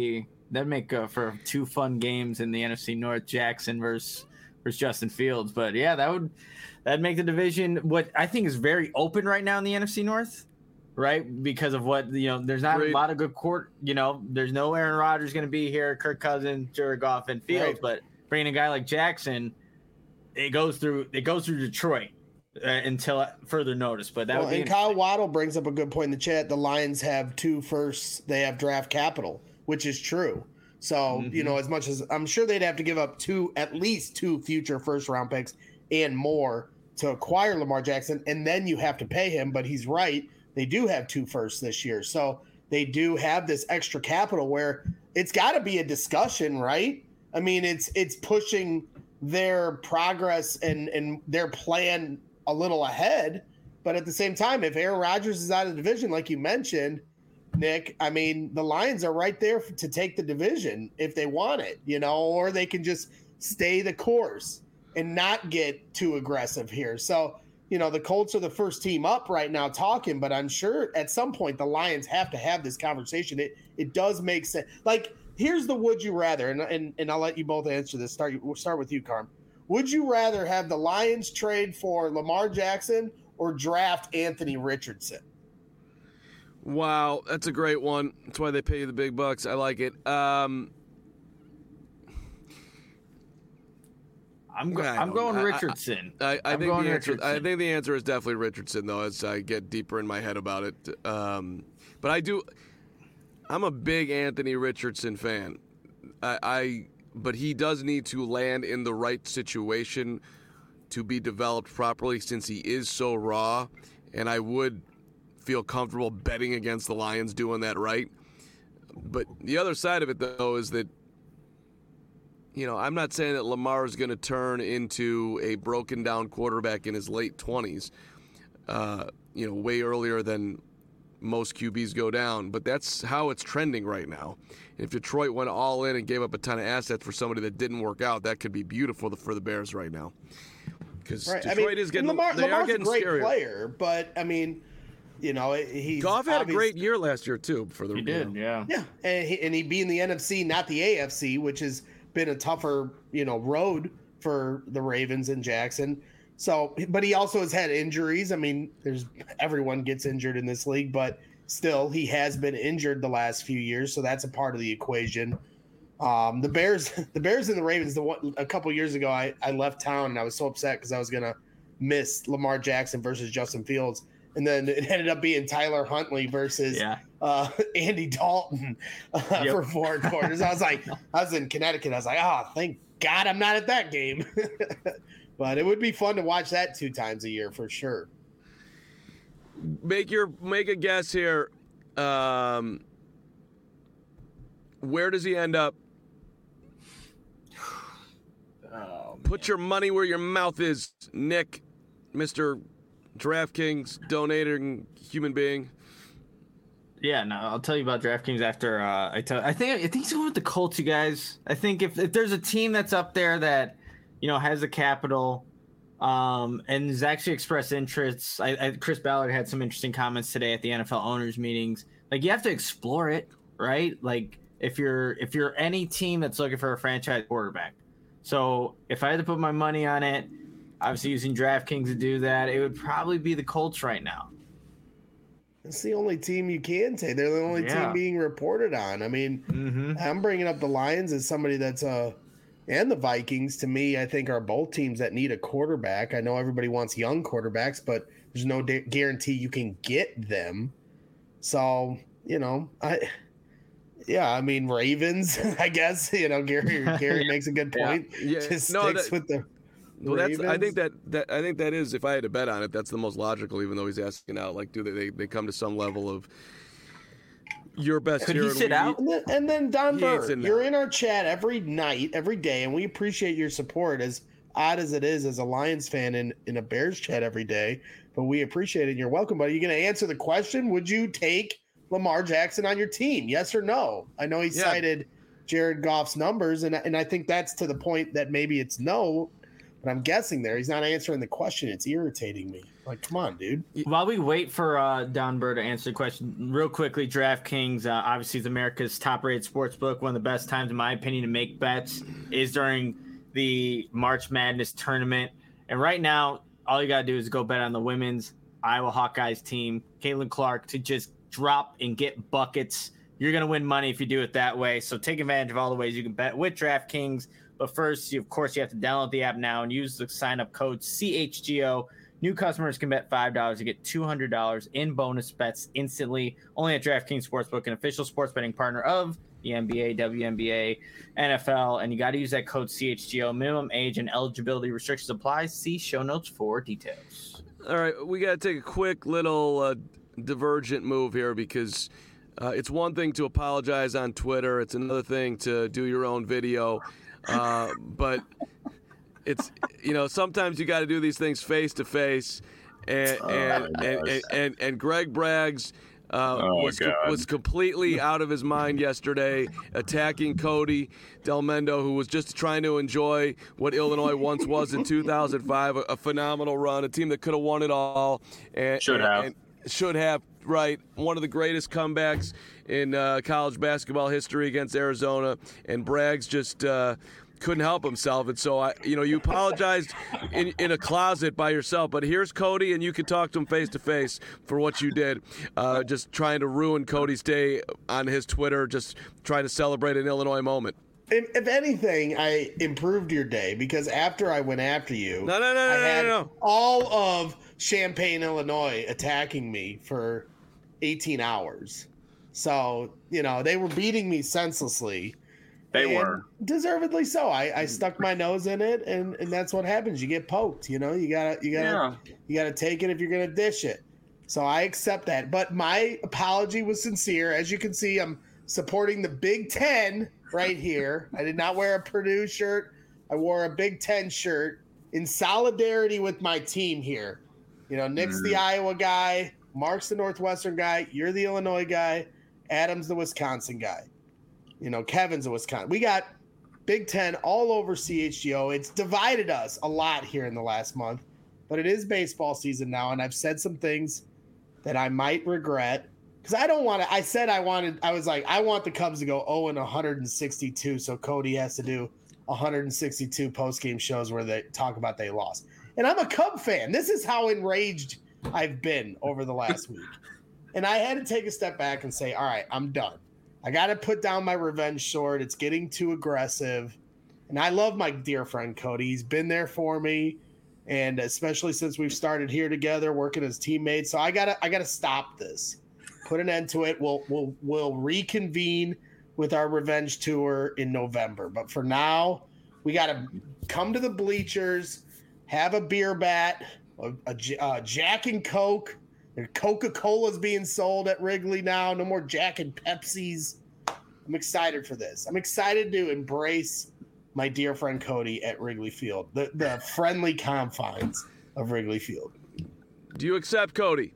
that'd make uh, for two fun games in the N F C North, Jackson versus versus Justin Fields. But yeah, that would that'd make the division what I think is very open right now in the N F C North, right? Because of what you know, there's not Great. a lot of good court. You know, there's no Aaron Rodgers going to be here, Kirk Cousins, Jared Goff, and Fields. Right. But bringing a guy like Jackson, it goes through it goes through Detroit. Uh, until further notice, but that Well, would be and Kyle Waddle brings up a good point in the chat. The Lions have two firsts. They have draft capital, which is true. So, Mhm. you know, as much as I'm sure they'd have to give up two, at least two future first round picks and more to acquire Lamar Jackson. And then you have to pay him. But he's right. They do have two firsts this year. So they do have this extra capital where it's got to be a discussion, right? I mean, it's it's pushing their progress and, and their plan a little ahead, but at the same time, if Aaron Rodgers is out of the division, like you mentioned, Nick, I mean, the Lions are right there to take the division if they want it, you know, or they can just stay the course and not get too aggressive here. So, you know, the Colts are the first team up right now talking, but I'm sure at some point the Lions have to have this conversation. It it does make sense. Like, here's the would you rather, and and, and I'll let you both answer this. Start we'll start with you, Carm. Would you rather have the Lions trade for Lamar Jackson or draft Anthony Richardson? Wow, that's a great one. That's why they pay you the big bucks. I like it. Um, I'm go- I I'm don't- going I- I- Richardson. I, I I'm think going the answer. I Richardson. think the answer is definitely Richardson, though. As I get deeper in my head about it, um, but I do. I'm a big Anthony Richardson fan. I, I but he does need to land in the right situation to be developed properly, since he is so raw. And I would feel comfortable betting against the Lions doing that right. But the other side of it, though, is that, you know, I'm not saying that Lamar is going to turn into a broken down quarterback in his late twenties, uh, you know, way earlier than most Q Bs go down, but that's how it's trending right now. If Detroit went all in and gave up a ton of assets for somebody that didn't work out, that could be beautiful for the Bears right now. Because Right. Detroit I mean, is getting, Lamar, they Lamar's are getting a great scarier. player, but I mean, you know, he's Goff had a obvious- great year last year too. For the He you did, know. yeah. Yeah, and he, and he be in the N F C, not the A F C, which has been a tougher, you know, road for the Ravens and Jackson. So, but he also has had injuries. I mean, there's everyone gets injured in this league, but still, he has been injured the last few years, so that's a part of the equation. Um, the Bears, the Bears and the Ravens. The one a couple years ago, I I left town and I was so upset because I was gonna miss Lamar Jackson versus Justin Fields. And then it ended up being Tyler Huntley versus Yeah. uh, Andy Dalton uh, Yep. for four quarters. I was like, I was in Connecticut. I was like, oh, thank God I'm not at that game. But it would be fun to watch that two times a year for sure. Make your make a guess here. Um, where does he end up? Oh, Put your money where your mouth is, Nick, Mister DraftKings donating human being. Yeah, no, I'll tell you about DraftKings after uh, I tell. I think I think he's going with the Colts, you guys. I think if, if there's a team that's up there that, you know, has the capital, um, and has actually expressed interests. I, I Chris Ballard had some interesting comments today at the N F L owners meetings. Like, you have to explore it, right? Like, if you're if you're any team that's looking for a franchise quarterback. So if I had to put my money on it, obviously using DraftKings to do that, it would probably be the Colts right now. It's the only team you can take. They're the only Yeah. team being reported on. I mean, Mm-hmm. I'm bringing up the Lions as somebody that's uh and the Vikings, to me, I think are both teams that need a quarterback. I know everybody wants young quarterbacks, but there's no da- guarantee you can get them. So, you know, I yeah, I mean Ravens, I guess. You know, Gary Gary makes a good point. Yeah, Just no, sticks that- with the Well, that's. I Ravens. think that, that. I think that is. If I had to bet on it, that's the most logical. Even though he's asking out, like, do they? They, they come to some level of your best. Could here he and sit we- out? And then, and then Don He ain't Burr, sitting you're out. in our chat every night, every day, and we appreciate your support. As odd as it is, as a Lions fan in, in a Bears chat every day, but we appreciate it. And you're welcome. But are you going to answer the question? Would you take Lamar Jackson on your team? Yes or no? I know he Yeah. cited Jared Goff's numbers, and and I think that's to the point that maybe it's no. but I'm guessing there. He's not answering the question. It's irritating me. Like, come on, dude. While we wait for uh, Don Burr to answer the question, real quickly, DraftKings uh, obviously is America's top-rated sports book. One of the best times, in my opinion, to make bets is during the March Madness tournament. And right now, all you got to do is go bet on the women's Iowa Hawkeyes team, Caitlin Clark, to just drop and get buckets. You're going to win money if you do it that way. So take advantage of all the ways you can bet with DraftKings. But first, you, of course, you have to download the app now and use the sign-up code C H G O. New customers can bet five dollars to get two hundred dollars in bonus bets instantly. Only at DraftKings Sportsbook, an official sports betting partner of the N B A, W N B A, N F L. And you got to use that code C H G O. Minimum age and eligibility restrictions apply. See show notes for details. All right, we got to take a quick little uh, divergent move here because uh, it's one thing to apologize on Twitter. It's another thing to do your own video. Uh, but it's, you know, sometimes you got to do these things face to face. And and, and, and, and and Greg Braggs uh, oh, was co- was completely out of his mind yesterday, attacking Cody Delmendo, who was just trying to enjoy what Illinois once was in two thousand five, a, a phenomenal run, a team that could have won it all. And, should and, have. And should have, right. One of the greatest comebacks in uh, college basketball history against Arizona. And Braggs just uh, couldn't help himself. And so, I, you know, you apologized in, in a closet by yourself. But here's Cody, and you can talk to him face to face for what you did. Uh, just trying to ruin Cody's day on his Twitter, just trying to celebrate an Illinois moment. If, if anything, I improved your day because after I went after you, no, no, no, I no, had no, no. all of Champaign, Illinois attacking me for eighteen hours. So, you know, they were beating me senselessly. They were. Deservedly so. I, I stuck my nose in it, and, and that's what happens. You get poked, you know, you gotta you gotta Yeah. you gotta take it if you're gonna dish it. So I accept that. But my apology was sincere. As you can see, I'm supporting the Big Ten right here. I did not wear a Purdue shirt. I wore a Big Ten shirt in solidarity with my team here. You know, Nick's the Iowa guy, Mark's the Northwestern guy, you're the Illinois guy, Adam's the Wisconsin guy. You know, Kevin's a Wisconsin. We got Big Ten all over C H G O. It's divided us a lot here in the last month, but it is baseball season now, and I've said some things that I might regret because I don't want to. I said I wanted. I was like, I want the Cubs to go oh and one sixty-two, so Cody has to do one sixty-two post-game shows where they talk about they lost. And I'm a Cub fan. This is how enraged I've been over the last week. And I had to take a step back and say, all right, I'm done. I got to put down my revenge sword. It's getting too aggressive. And I love my dear friend Cody. He's been there for me. And especially since we've started here together, working as teammates. So I gotta I gotta stop this. Put an end to it. We'll we'll we'll reconvene with our revenge tour in November. But for now, we gotta come to the bleachers, have a beer bat, a, a, a Jack and Coke. Coca-Cola's being sold at Wrigley now. No more Jack and Pepsis. I'm excited for this. I'm excited to embrace my dear friend Cody at Wrigley Field, the, the friendly confines of Wrigley Field. Do you accept, Cody?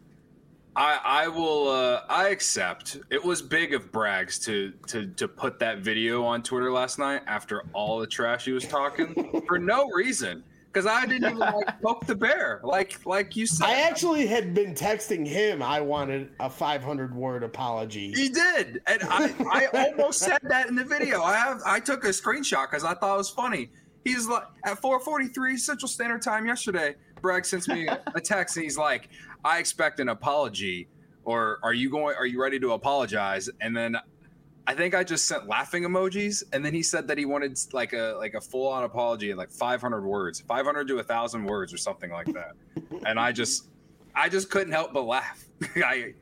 I, I will. Uh, I accept. It was big of Braggs to to to put that video on Twitter last night after all the trash he was talking for no reason. Because I didn't even like poke the bear, like like you said. I actually had been texting him. I wanted a five hundred word apology. He did, and I, I almost said that in the video. I have I took a screenshot because I thought it was funny. He's like at four forty-three Central Standard Time yesterday. Bragg sends me a text, and he's like, "I expect an apology, or are you going? Are you ready to apologize?" And then I think I just sent laughing emojis, and then he said that he wanted like a like a full on apology in like five hundred words, five hundred to a thousand words or something like that. And I just, I just couldn't help but laugh. I,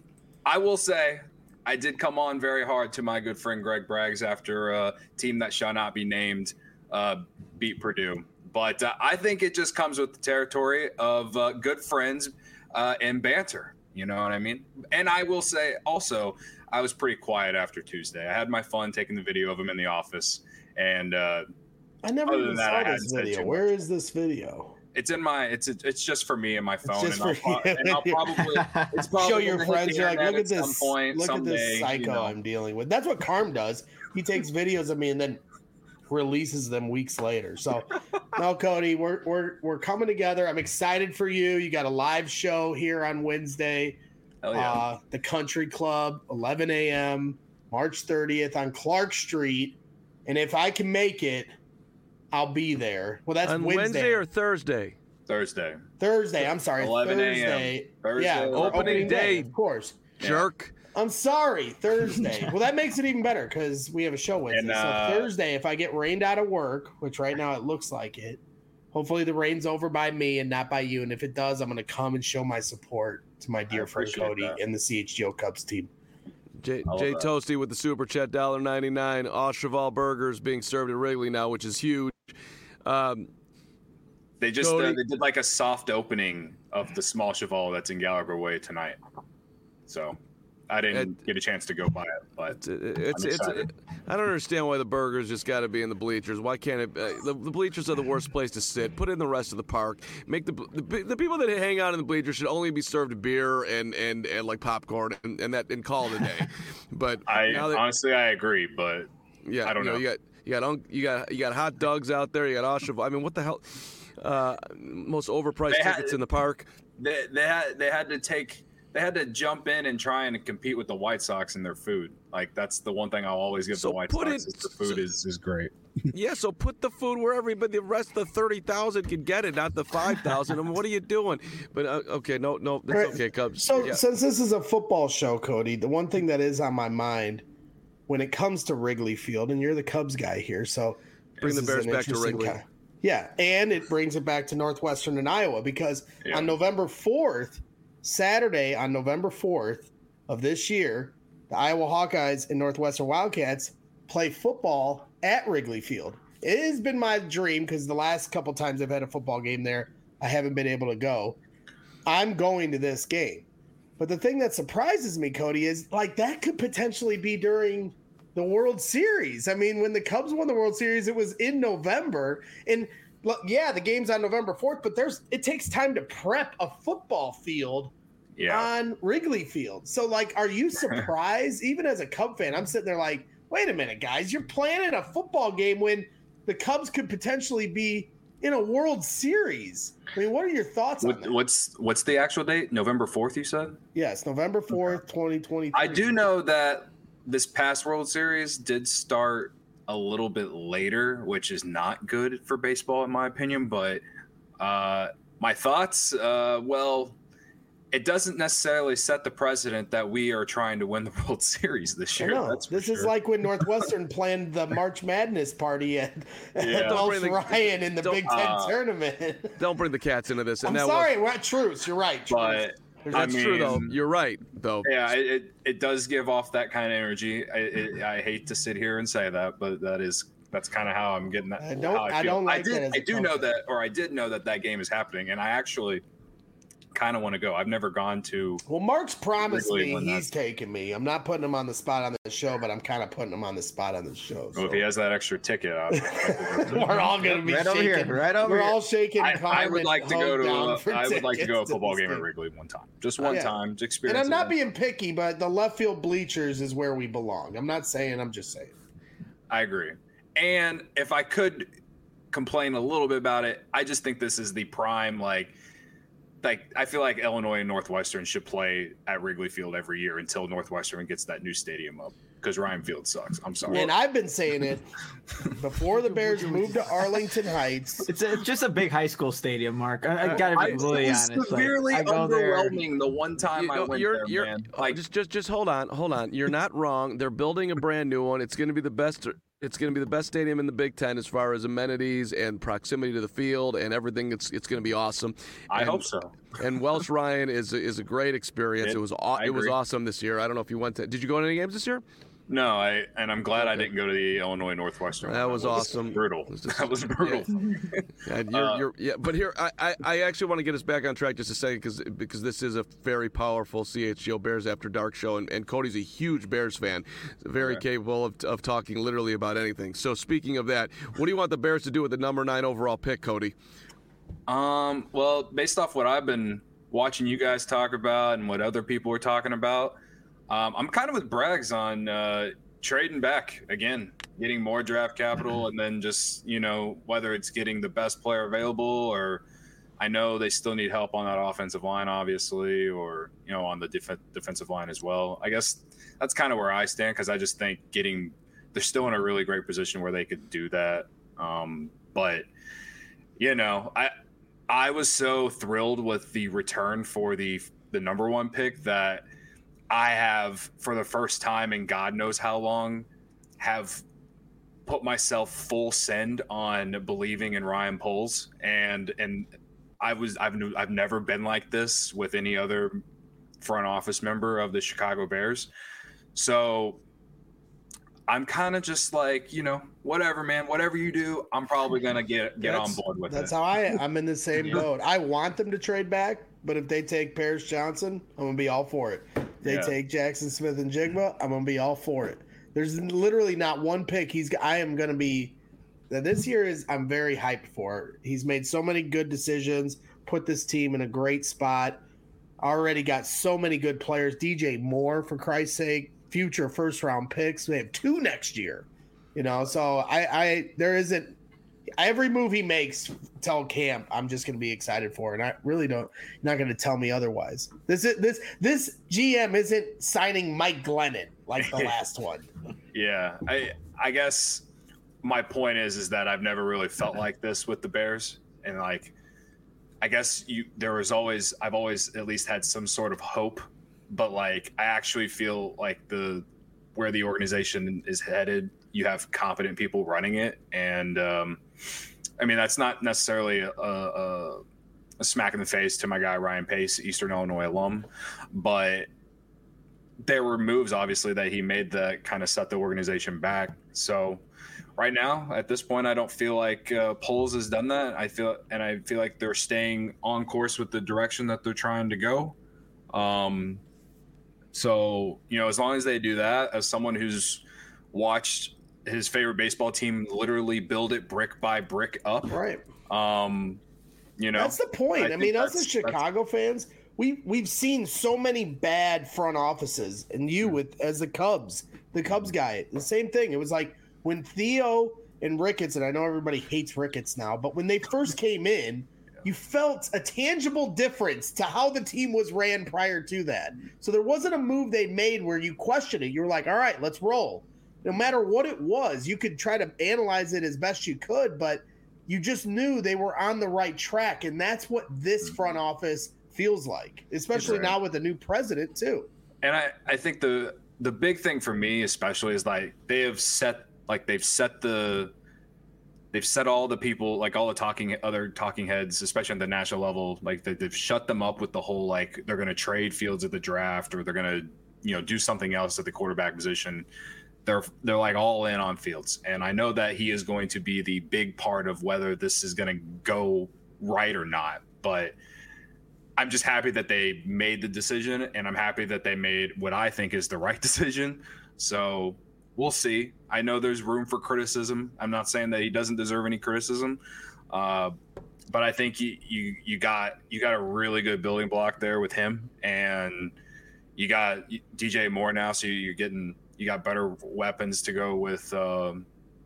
I will say, I did come on very hard to my good friend Greg Braggs after a team that shall not be named uh, beat Purdue. But uh, I think it just comes with the territory of uh, good friends uh, and banter. You know what I mean? And I will say also, I was pretty quiet after Tuesday. I had my fun taking the video of him in the office. And uh, I never other even than that, saw I this hadn't said video. too Where much. is this video? It's in my. It's it's just for me and my phone, just and I'll, for pro- you. and I'll probably it's probably Show your gonna hit friends. the You're like, internet look at some this. point, Look at someday, this psycho you know. I'm dealing with. That's what Carm does. He takes videos of me and then releases them weeks later. So no, Cody, we're we're we're coming together. I'm excited for you. You got a live show here on Wednesday. Hell yeah. Uh, the Country Club, eleven a.m. March thirtieth on Clark Street. And if I can make it, I'll be there. Well, that's On Wednesday. Wednesday or Thursday? Thursday. Thursday. I'm sorry. eleven a.m. Thursday. Thursday. Yeah, for Opening day. of course. Jerk. I'm sorry, Thursday. Well, that makes it even better because we have a show Wednesday. And, uh, so Thursday, if I get rained out of work, which right now it looks like it, hopefully the rain's over by me and not by you. And if it does, I'm going to come and show my support to my dear friend appreciate Cody that. and the C H G O Cubs team. Jay, I love Jay that. Toasty with the super chat, one dollar ninety-nine. Aucheval burgers being served at Wrigley now, which is huge. Um, They just uh, Cody- they did like a soft opening of the small Cheval that's in Gallagher Way tonight. So I didn't It- get a chance to go by it, but it's it's, I'm it's excited. I don't understand why the burgers just got to be in the bleachers. Why can't it? Uh, the, the bleachers are the worst place to sit. Put it in the rest of the park. Make the, the the people that hang out in the bleachers should only be served beer and and, and like popcorn and, and that and call it a day. But I now that, honestly I agree, but yeah, I don't you know. You got you got un- you got you got hot dogs out there. You got Aucheval. I mean, what the hell? Uh, most overpriced They had- tickets in the park. they they had they had to take they had to jump in and try and compete with the White Sox in their food. Like that's the one thing I'll always give So the White put Sox it- is the food so- is, is great. Yeah, so put the food where everybody, the rest of the thirty thousand can get it, not the five thousand. I mean, what are you doing? But uh, okay, no, no, that's Right. okay, Cubs. So yeah. since this is a football show, Cody, the one thing that is on my mind when it comes to Wrigley Field, and you're the Cubs guy here, so Bring this the is Bears an back to interesting Wrigley. ki- Yeah, and it brings it back to Northwestern and Iowa because Yeah. on November fourth, Saturday on November fourth of this year, the Iowa Hawkeyes and Northwestern Wildcats play football at Wrigley Field. It has been my dream because the last couple times I've had a football game there, I haven't been able to go. I'm going to this game. But the thing that surprises me, Cody, is like that could potentially be during the World Series. I mean, when the Cubs won the World Series, it was in November. And look, yeah, the game's on November fourth, but there's it takes time to prep a football field Yeah. on Wrigley Field. So, like, are you surprised? Even as a Cub fan, I'm sitting there like, wait a minute, guys, you're planning a football game when the Cubs could potentially be in a World Series. I mean, what are your thoughts on What, that? what's what's the actual date? November fourth, you said? Yes, November fourth, twenty twenty-three. I do know that this past World Series did start a little bit later, which is not good for baseball, in my opinion. But uh, my thoughts, uh, well, it doesn't necessarily set the precedent that we are trying to win the World Series this I year. know. That's for This is sure. like when Northwestern planned the March Madness party at, Yeah. at Don't Welsh bring the- Ryan in the don't- Big Ten uh, tournament. Don't bring the cats into this. And I'm that sorry, we're at Truce. You're right. Truce. But There's- I Was, that's true, though. mean- You're right, though. yeah, it, it, it does give off that kind of energy. I, it, I hate to sit here and say that, but that is that's kind of how I'm getting that. I don't- how I feel. don't like I did. that as a I do Cubs know fan. that, or I did know that that game is happening, and I actually kind of want to go. I've never gone to. Well, Mark's promised Wrigley me when he's taking me. I'm not putting him on the spot on the show, but I'm kind of putting him on the spot on the show. Well, if he has that extra ticket, I'll, We're all going to be Right over shaking. here, right over We're here. all shaking. I, I Carmen would like to go Hogue to. down A, for I would like to go a tickets football this game at thing. Wrigley one time, just one Yeah. time, to And experience. I'm not it. being picky, but the left field bleachers is where we belong. I'm not saying. I'm just saying. I agree. And if I could complain a little bit about it, I just think this is the prime, like, like I feel like Illinois and Northwestern should play at Wrigley Field every year until Northwestern gets that new stadium up because Ryan Field sucks. I'm sorry. And I've been saying it before the Bears moved to Arlington Heights. It's, a, it's just a big high school stadium, Mark. I, I gotta be I really was honest. severely like, I go there. underwhelming the one time You I know, went you're, there, you're, man. oh, Like, just, just, just hold on, hold on. You're not wrong. They're building a brand new one. It's going to be the best. It's going to be the best stadium in the Big Ten as far as amenities and proximity to the field and everything. It's, it's going to be awesome. I And- hope so. And Welsh Ryan is is a great experience. It- It, was aw- I it was agree. awesome this year. I don't know if you went to. Did you go to any games this year? No, I and I'm glad I Okay. didn't go to the Illinois Northwestern. That one. was It awesome. Brutal. It was just- that was brutal. Yeah, you're, Uh, you're, yeah, but here I, I, I actually want to get us back on track just a second because because this is a very powerful C H G O Bears After Dark show, and, and Cody's a huge Bears fan, very Okay. capable of, of talking literally about anything. So speaking of that, what do you want the Bears to do with the number nine overall pick, Cody? Um, well, based off what I've been watching you guys talk about and what other people are talking about, um, I'm kind of with Braggs on uh, trading back again, getting more draft capital, and then just, you know, whether it's getting the best player available, or I know they still need help on that offensive line, obviously, or, you know, on the def- defensive line as well. I guess that's kind of where I stand, because I just think getting they're still in a really great position where they could do that. Um, but, you know, I I was so thrilled with the return for the the number one pick that I have, for the first time in God knows how long, have put myself full send on believing in Ryan Poles. And and I was I've I've never been like this with any other front office member of the Chicago Bears. So I'm kind of just like, you know, whatever, man, whatever you do, I'm probably going to get get That's- on board with That's it. how I I'm in the same boat. I want them to trade back, but if they take Paris Johnson, I'm gonna be all for it. If they Yeah. take Jackson Smith and Jigba, I'm gonna be all for it. There's literally not one pick he's I am gonna be that this year is I'm very hyped for. He's made so many good decisions, put this team in a great spot. Already got so many good players. D J Moore, for Christ's sake, future first round picks. They have two next year. You know, so I, I there isn't every move he makes till camp, I'm just gonna be excited for, and I really don't. You're not gonna tell me otherwise. This is this this G M isn't signing Mike Glennon like the last one. Yeah, I I guess my point is is that I've never really felt like this with the Bears, and like I guess you there was always I've always at least had some sort of hope, but like I actually feel like the where the organization is headed, you have competent people running it, and um, I mean that's not necessarily a, a, a smack in the face to my guy Ryan Pace, Eastern Illinois alum, but there were moves obviously that he made that kind of set the organization back. So right now at this point, I don't feel like uh, Poles has done that. I feel and I feel like they're staying on course with the direction that they're trying to go. Um, so you know, as long as they do that, as someone who's watched his favorite baseball team literally build it brick by brick up, Right. um, you know, That's the point. I, I mean, think us as that's- Chicago fans, we we've seen so many bad front offices, and you with as the Cubs, the Cubs guy, the same thing. It was like when Theo and Ricketts, and I know everybody hates Ricketts now, but when they first came in, you felt a tangible difference to how the team was ran prior to that. So there wasn't a move they made where you questioned it. You were like, all right, let's roll. No matter what it was, you could try to analyze it as best you could, but you just knew they were on the right track. And that's what this front office feels like, especially Right. now with the new president too. And I, I think the the big thing for me especially is like they have set like they've set the they've set all the people, like all the talking other talking heads, especially on the national level, like they, they've shut them up with the whole like they're going to trade Fields at the draft or they're going to, you know, do something else at the quarterback position. They're they're like all in on Fields, and I know that he is going to be the big part of whether this is going to go right or not. But I'm just happy that they made the decision, and I'm happy that they made what I think is the right decision. So we'll see. I know there's room for criticism. I'm not saying that he doesn't deserve any criticism, uh, but I think you, you you got you got a really good building block there with him, and you got D J Moore now, so you're getting you got better weapons to go with um,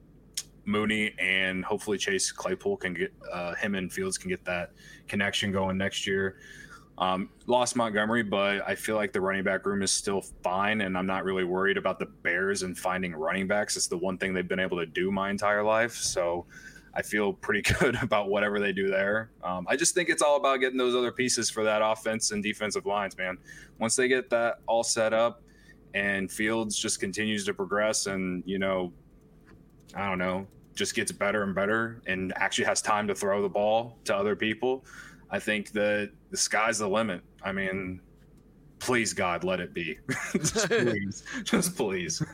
Mooney, and hopefully Chase Claypool can get uh, him and Fields can get that connection going next year. Um, lost Montgomery, but I feel like the running back room is still fine, and I'm not really worried about the Bears and finding running backs. It's the one thing they've been able to do my entire life, so I feel pretty good about whatever they do there. Um, I just think it's all about getting those other pieces for that offense and defensive lines, man. Once they get that all set up and Fields just continues to progress and, you know, I don't know, just gets better and better and actually has time to throw the ball to other people, I think that the sky's the limit. I mean, please, God, let it be. Just please. Just please.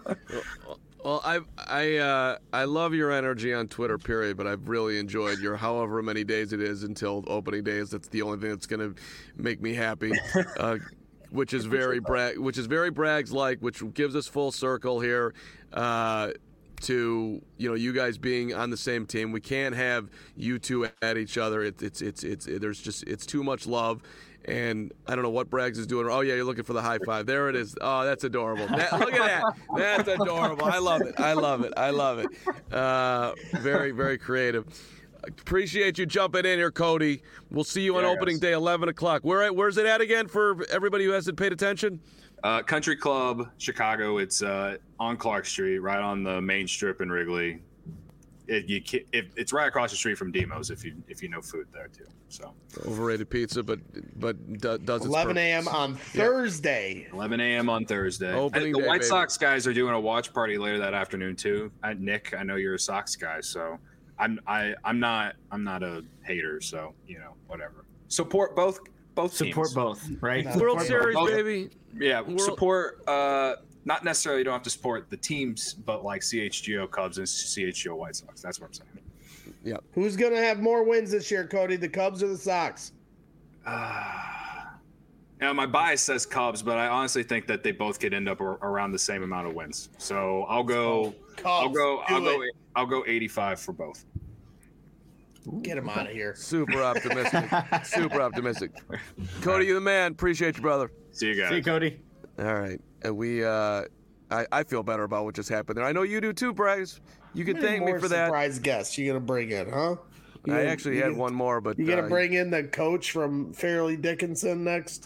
Well, I I uh, I love your energy on Twitter, period. But I've really enjoyed your however many days it is until opening days. That's the only thing that's gonna make me happy, uh, which is very brag, which is very Brags like, which gives us full circle here. Uh, to, you know, you guys being on the same team. We can't have you two at each other. It, it's it's it's it, there's just it's too much love. And I don't know what Braggs is doing. Oh, yeah, you're looking for the high five. There it is. Oh, that's adorable. That, look at that. That's adorable. I love it. I love it. I love it. Uh, very, very creative. Appreciate you jumping in here, Cody. We'll see you on yeah, opening guys. day, eleven o'clock. Where Where's it at again for everybody who hasn't paid attention? Uh, Country Club, Chicago. It's uh, on Clark Street, right on the main strip in Wrigley. It, you can, it, it's right across the street from Demos if you if you know food there too. So overrated pizza, but but do, does its eleven a.m. purpose. on Thursday. eleven a.m. on Thursday. Opening the day, White baby. Sox guys are doing a watch party later that afternoon too. I, Nick, I know you're a Sox guy, so I'm I I'm not I'm not a hater. So you know whatever. Support both both Support teams. both, right? No. World Both- Series, both- baby. Yeah, World- support. Uh, not necessarily you don't have to support the teams, but like C H G O Cubs and C H G O White Sox. That's what I'm saying. Who's going to have more wins this year, Cody? The Cubs or the Sox? Uh, you know, my bias says Cubs, but I honestly think that they both could end up ar- around the same amount of wins. So I'll go. Cubs. I'll go. do I'll go. it. I'll go eighty-five for both. Get him out of here. Super optimistic. Super optimistic. Cody, you the man. Appreciate you, brother. See you guys. See you, Cody. All right. And we, uh, I, I feel better about what just happened there. I know you do too, Braggs. You can How many thank me more for that. surprise guests you going to bring in, huh? You I gonna- actually you had gonna- one more, but You going to uh, bring in the coach from Fairleigh Dickinson next?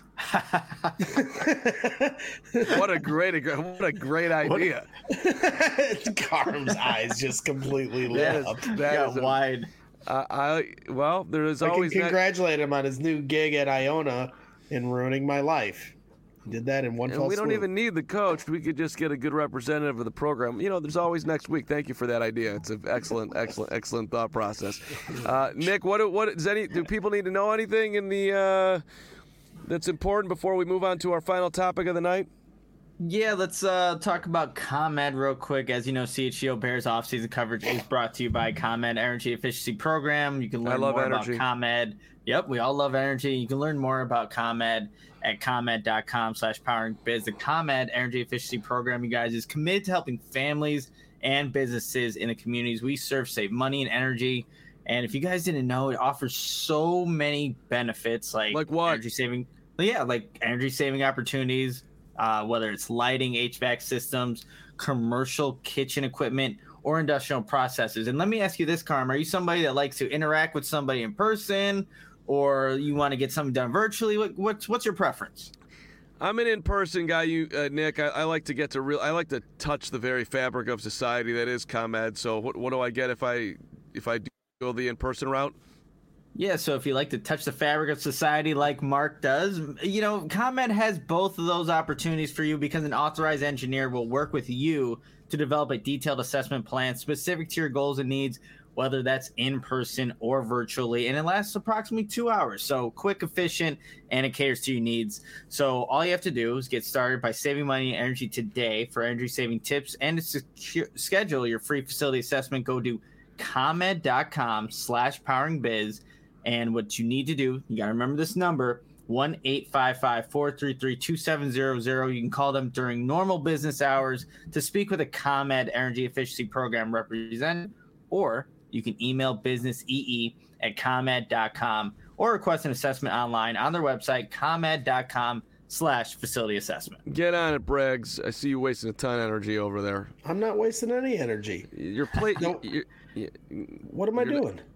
what a great, what a great idea. Carm's eyes just completely lit That is, up. that Got is a- wide. I, I well, there is I can always that, congratulate him on his new gig at Iona in ruining my life. He did that in one and fell we don't swoop. even need the coach. We could just get a good representative of the program. You know, there's always next week. Thank you for that idea. It's an excellent, excellent, excellent thought process. Uh, Nick, what what does any do people need to know anything in the uh, that's important before we move on to our final topic of the night? Yeah, let's uh, talk about ComEd real quick. As you know, C H G O Bears offseason coverage is brought to you by ComEd Energy Efficiency Program. You can I learn love more energy. about ComEd. Yep, we all love energy. You can learn more about ComEd at comed.com slash powering biz. The ComEd Energy Efficiency Program, you guys, is committed to helping families and businesses in the communities we serve save money and energy. And if you guys didn't know, it offers so many benefits like, Like what? energy saving. Yeah, like energy saving opportunities. Uh, whether it's lighting, H V A C systems, commercial kitchen equipment, or industrial processes. And let me ask you this, Carm. Are you somebody that likes to interact with somebody in person, or you want to get something done virtually? What, what's what's your preference? I'm an in-person guy, you uh, Nick. I, I like to get to real. I like to touch the very fabric of society that is ComEd. So what what do I get if I if I do go the in-person route? Yeah, so if you like to touch the fabric of society like Mark does, you know, ComEd has both of those opportunities for you because an authorized engineer will work with you to develop a detailed assessment plan specific to your goals and needs, whether that's in person or virtually, and it lasts approximately two hours. So quick, efficient, and it caters to your needs. So all you have to do is get started by saving money and energy today. For energy saving tips and to secure, schedule your free facility assessment, go to comed.com slash powering biz. And what you need to do, you got to remember this number, one eight five five, four three three, two seven zero zero. You can call them during normal business hours to speak with a ComEd Energy Efficiency Program representative, or you can email businessee at comed dot com or request an assessment online on their website, comed.com slash facility assessment. Get on it, Braggs. I see you wasting a ton of energy over there. I'm not wasting any energy. Your plate. No. you, you, What am I You're not- doing?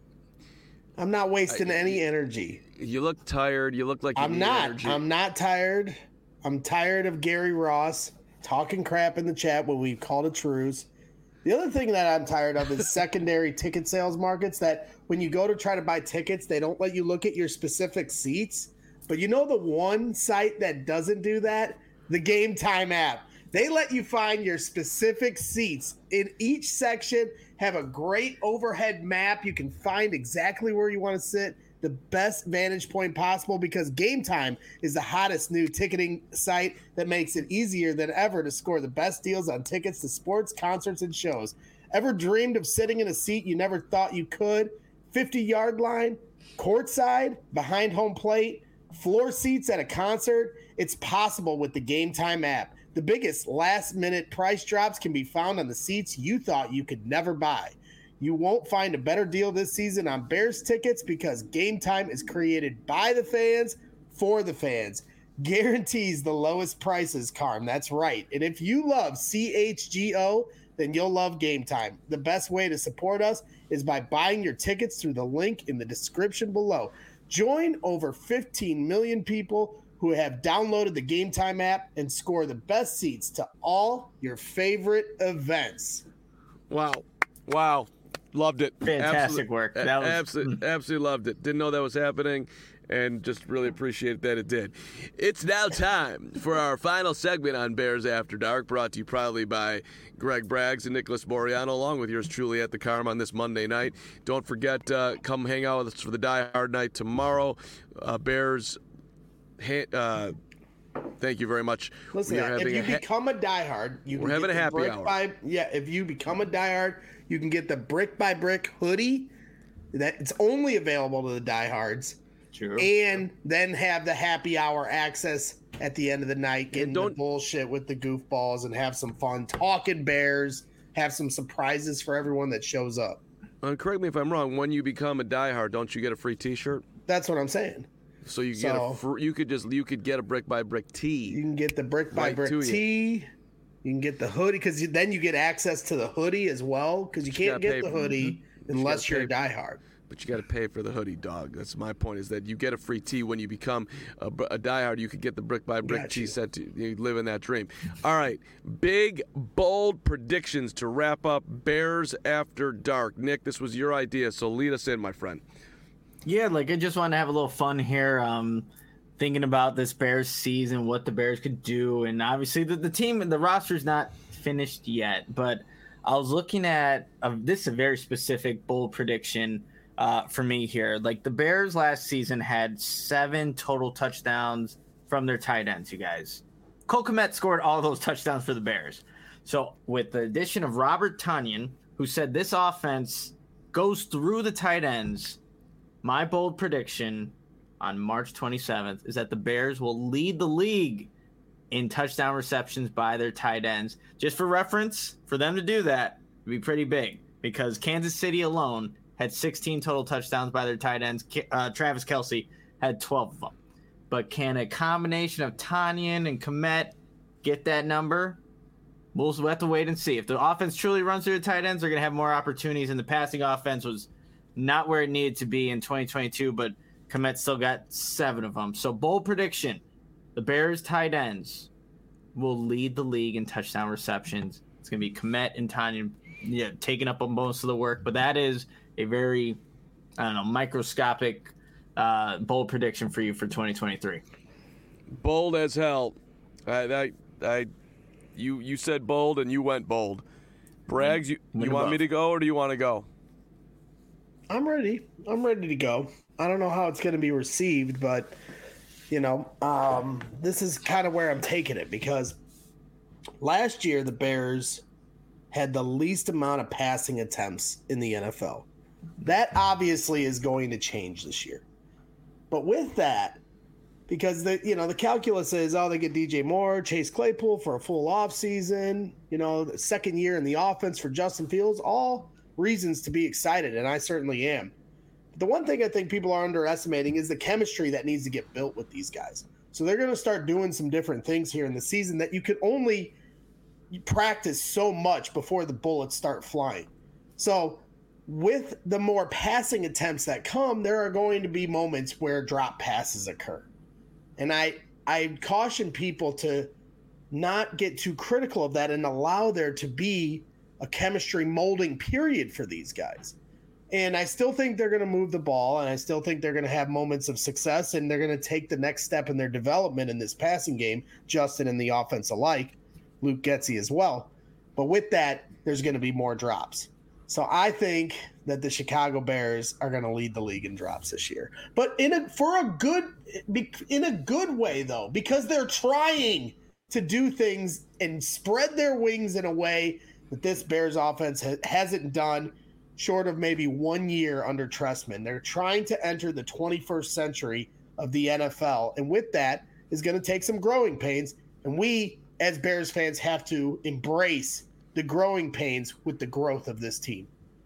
I'm not wasting I- any energy. you look tired. You look like you I'm need not. energy. I'm not tired. I'm tired of Gary Ross talking crap in the chat when we called a truce. The other thing that I'm tired of is secondary ticket sales markets that when you go to try to buy tickets, they don't let you look at your specific seats. But you know the one site that doesn't do that? The Game Time app. They let you find your specific seats in each section, have a great overhead map. You can find exactly where you want to sit, the best vantage point possible, because Game Time is the hottest new ticketing site that makes it easier than ever to score the best deals on tickets to sports, concerts, and shows. Ever dreamed of sitting in a seat you never thought you could? fifty-yard line, courtside, behind home plate, floor seats at a concert? It's possible with the Game Time app. The biggest last-minute price drops can be found on the seats you thought you could never buy. You won't find a better deal this season on Bears tickets because Game Time is created by the fans for the fans. Guarantees the lowest prices, Carm. That's right. And if you love C H G O, then you'll love Game Time. The best way to support us is by buying your tickets through the link in the description below. Join over fifteen million people who have downloaded the Game Time app and score the best seats to all your favorite events. Wow. Wow. Loved it. Fantastic work. That was absolutely, absolutely loved it. Didn't know that was happening, and just really appreciate that it did. It's now time for our final segment on Bears After Dark, brought to you proudly by Greg Braggs and Nicholas Moriano, along with yours truly at the Carm on this Monday night. Don't forget, uh, come hang out with us for the Die Hard night tomorrow. Uh, Bears, uh, thank you very much. Listen, if you ha- become a diehard, you we're can having get a happy brick hour. By, yeah, if you become a diehard, you can get the brick by brick hoodie. That it's only available to the diehards. True. And then have the happy hour access at the end of the night, getting the bullshit with the goofballs and have some fun talking Bears, have some surprises for everyone that shows up. And correct me if I'm wrong, when you become a diehard, don't you get a free t-shirt? That's what I'm saying. So you So- get a fr- you could just you could get a brick by brick tee. You can get the brick by Right brick to you. tee. You can get the hoodie because then you get access to the hoodie as well because you You can't gotta get pay the for- hoodie you unless gotta you're a pay- diehard. But you got to pay for the hoodie, dog. That's my point. Is that you get a free tee when you become a, a diehard. You could get the brick by brick Got tee you. set to you live in that dream. All right, big bold predictions to wrap up Bears After Dark. Nick, this was your idea, so lead us in, my friend. Yeah, like I just wanted to have a little fun here. Um, thinking about this Bears season, what the Bears could do, and obviously the, the team, the roster's not finished yet. But I was looking at uh, this is a very specific bold prediction uh, for me here. Like the Bears last season had seven total touchdowns from their tight ends. You guys, Cole Kmet scored all those touchdowns for the Bears. So with the addition of Robert Tonyan, who said this offense goes through the tight ends. My bold prediction on March twenty-seventh is that the Bears will lead the league in touchdown receptions by their tight ends. Just for reference, for them to do that would be pretty big because Kansas City alone had sixteen total touchdowns by their tight ends. Uh, Travis Kelce had twelve of them. But can a combination of Tonyan and Kmet get that number? We'll have to wait and see. If the offense truly runs through the tight ends, they're going to have more opportunities, and the passing offense was not where it needed to be in twenty twenty-two, but Kmet still got seven of them. So bold prediction, the Bears tight ends will lead the league in touchdown receptions. It's going to be Kmet and Tonyan, yeah, taking up on most of the work, but that is a very, I don't know, microscopic uh, bold prediction for you for twenty twenty-three. Bold as hell. I, I, I, you, you said bold and you went bold. Braggs, you, Win you want above. me to go or do you want to go? I'm ready. I'm ready to go. I don't know how it's going to be received, but you know, um, this is kind of where I'm taking it because last year the Bears had the least amount of passing attempts in the N F L. That obviously is going to change this year. But with that, because the you know the calculus is, oh, they get D J Moore, Chase Claypool for a full offseason, you know, the second year in the offense for Justin Fields, all reasons to be excited, and I certainly am. The one thing I think people are underestimating is the chemistry that needs to get built with these guys. So they're going to start doing some different things here in the season that you can only practice so much before the bullets start flying. So with the more passing attempts that come, there are going to be moments where drop passes occur. And I I caution people to not get too critical of that and allow there to be a chemistry molding period for these guys. And I still think they're going to move the ball, and I still think they're going to have moments of success, and they're going to take the next step in their development in this passing game, Justin and the offense alike, Luke Getsy as well. But with that, there's going to be more drops. So I think that the Chicago Bears are going to lead the league in drops this year. But in a for a good in a good way, though, because they're trying to do things and spread their wings in a way that this Bears offense ha- hasn't done short of maybe one year under Trestman. They're trying to enter the twenty-first century of the N F L. And with that is going to take some growing pains. And we, as Bears fans, have to embrace the growing pains with the growth of this team.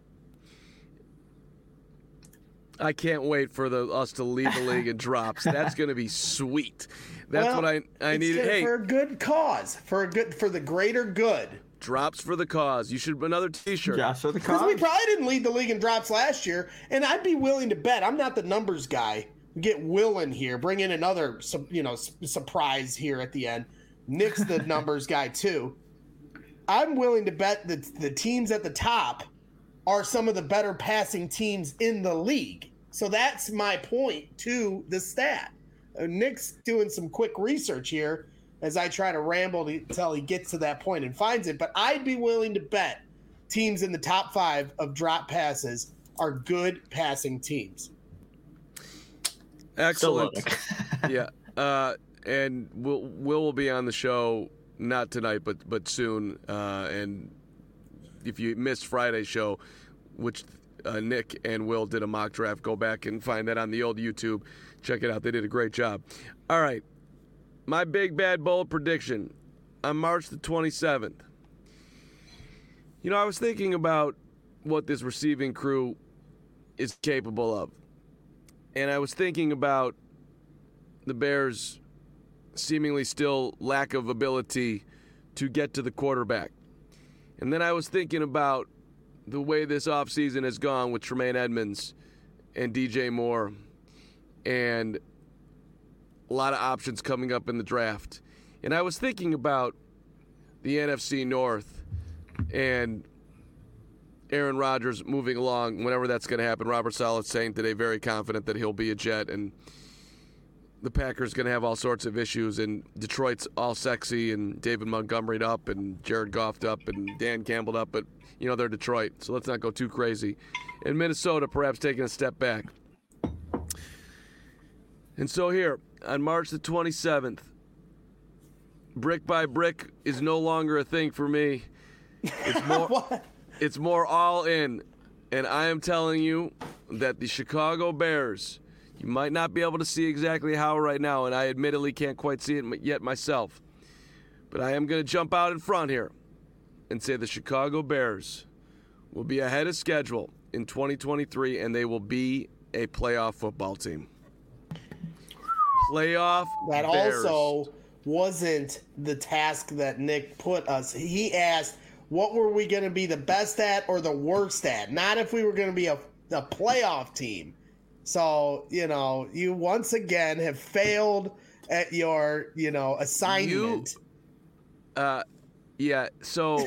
I can't wait for the us to lead the league in drops. That's going to be sweet. That's Well, what I I it's need. good Hey, for a good cause, for a good for the greater good. drops for the cause. You should another T-shirt. Josh for the Because cause. we probably didn't lead the league in drops last year, and I'd be willing to bet. I'm not the numbers guy. Get Will in here, bring in another, su- you know, su- surprise here at the end. Nick's the numbers guy too. I'm willing to bet that the teams at the top are some of the better passing teams in the league. So that's my point to the stat. Uh, Nick's doing some quick research here as I try to ramble until he gets to that point and finds it. But I'd be willing to bet teams in the top five of drop passes are good passing teams. Excellent. Still yeah. Uh, and Will Will will be on the show not tonight, but but soon. Uh, and if you missed Friday's show, which uh, Nick and Will did a mock draft, go back and find that on the old YouTube. Check it out. They did a great job. All right. My big bad bold prediction on March the twenty-seventh. You know, I was thinking about what this receiving crew is capable of. And I was thinking about the Bears' seemingly still lack of ability to get to the quarterback. And then I was thinking about the way this offseason has gone with Tremaine Edmonds and D J Moore and a lot of options coming up in the draft. And I was thinking about the N F C North and Aaron Rodgers moving along whenever that's going to happen. Robert Saleh saying today very confident that he'll be a Jet, and the Packers going to have all sorts of issues, and Detroit's all sexy and David Montgomery'd up and Jared Goff'd up and Dan Campbell'd up, but, you know, they're Detroit, so let's not go too crazy. And Minnesota perhaps taking a step back. And so here, on March the twenty-seventh, brick by brick is no longer a thing for me. It's more... What? It's more all in, and I am telling you that the Chicago Bears, you might not be able to see exactly how right now, and I admittedly can't quite see it yet myself, but I am going to jump out in front here and say the Chicago Bears will be ahead of schedule in twenty twenty-three, and they will be a playoff football team. Playoff That Bears. also wasn't the task that Nick put us. He asked, what were we going to be the best at or the worst at? Not if we were going to be a, a playoff team. So, you know, you once again have failed at your, you know, assignment. You, uh, yeah, so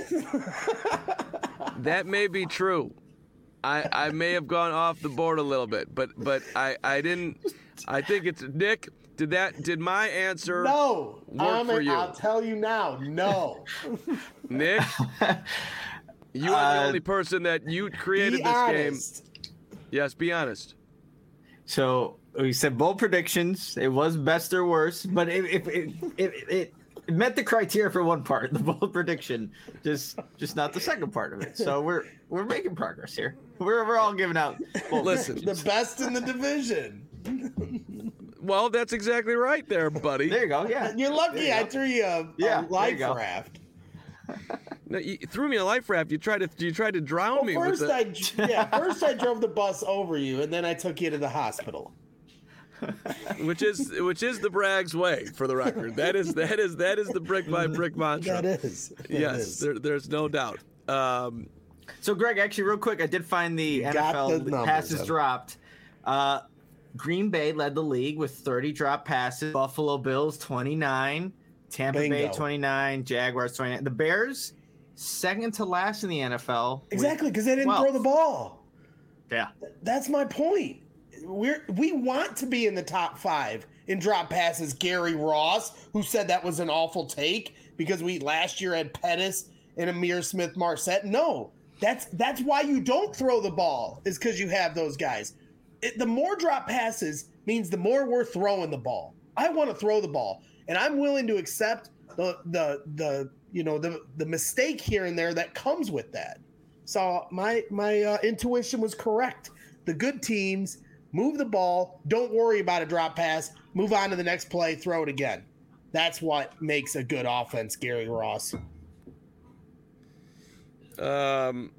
that may be true. I, I may have gone off the board a little bit, but but I, I didn't. I think it's Nick. Did that? Did my answer No, work I'm, for you? I'll tell you now. No. Nick, you are the Uh, only person that you created Be this honest. game. Yes, be honest. So we said bold predictions. It was best or worst, but it it, it, it, it it met the criteria for one part, the bold prediction, just just not the second part of it. So we're we're making progress here. We're we're all giving out. bold Listen. The best in the division. Well, that's exactly right there, buddy. There you go. Yeah. You're lucky There you I go. threw you a, a Yeah, there life you go. raft. No, you threw me a life raft. You tried to you tried to drown Well, me with first the, I yeah, first I drove the bus over you, and then I took you to the hospital. which is which is the Braggs way, for the record. That is that is that is the brick by brick mantra. That is. That yes, is. there, there's no doubt. Um, So Greg, actually, real quick, I did find the got N F L the numbers, passes huh? dropped. Uh, Green Bay led the league with thirty drop passes. Buffalo Bills twenty-nine, Tampa Bay Bingo. twenty-nine, Jaguars twenty-nine. The Bears second to last in the N F L. with Exactly, because they didn't twelve. throw the ball. Yeah. That's my point. We're we want to be in the top five in drop passes. Gary Ross, who said that was an awful take because we last year had Pettis and Amir Smith Marset. No, that's that's why you don't throw the ball, is because you have those guys. It, the more drop passes means the more we're throwing the ball. I want to throw the ball, and I'm willing to accept the the the you know the the mistake here and there that comes with that. So my my uh, intuition was correct. The good teams move the ball, don't worry about a drop pass, move on to the next play, throw it again. That's what makes a good offense, Gary Ross. Um.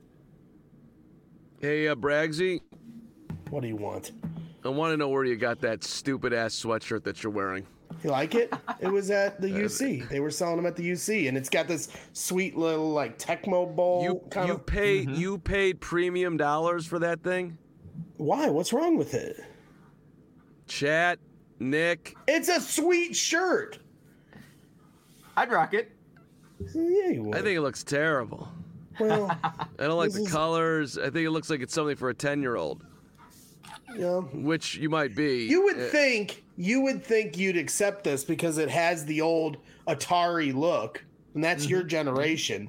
Hey, uh, Bragsy, What do you want? I want to know where you got that stupid ass sweatshirt that you're wearing. You like it? It was at the U C. They were selling them at the U C, and it's got this sweet little like Tecmo Bowl You kind you of. paid you paid premium dollars for that thing? Why? What's wrong with it? Chat, Nick. It's a sweet shirt. I'd rock it. Yeah, you would. I think it looks terrible. Well, I don't like This the is- colors. I think it looks like it's something for a ten-year-old, you know, which you might be. you would Uh, think you would think you'd accept this because it has the old Atari look, and that's your generation.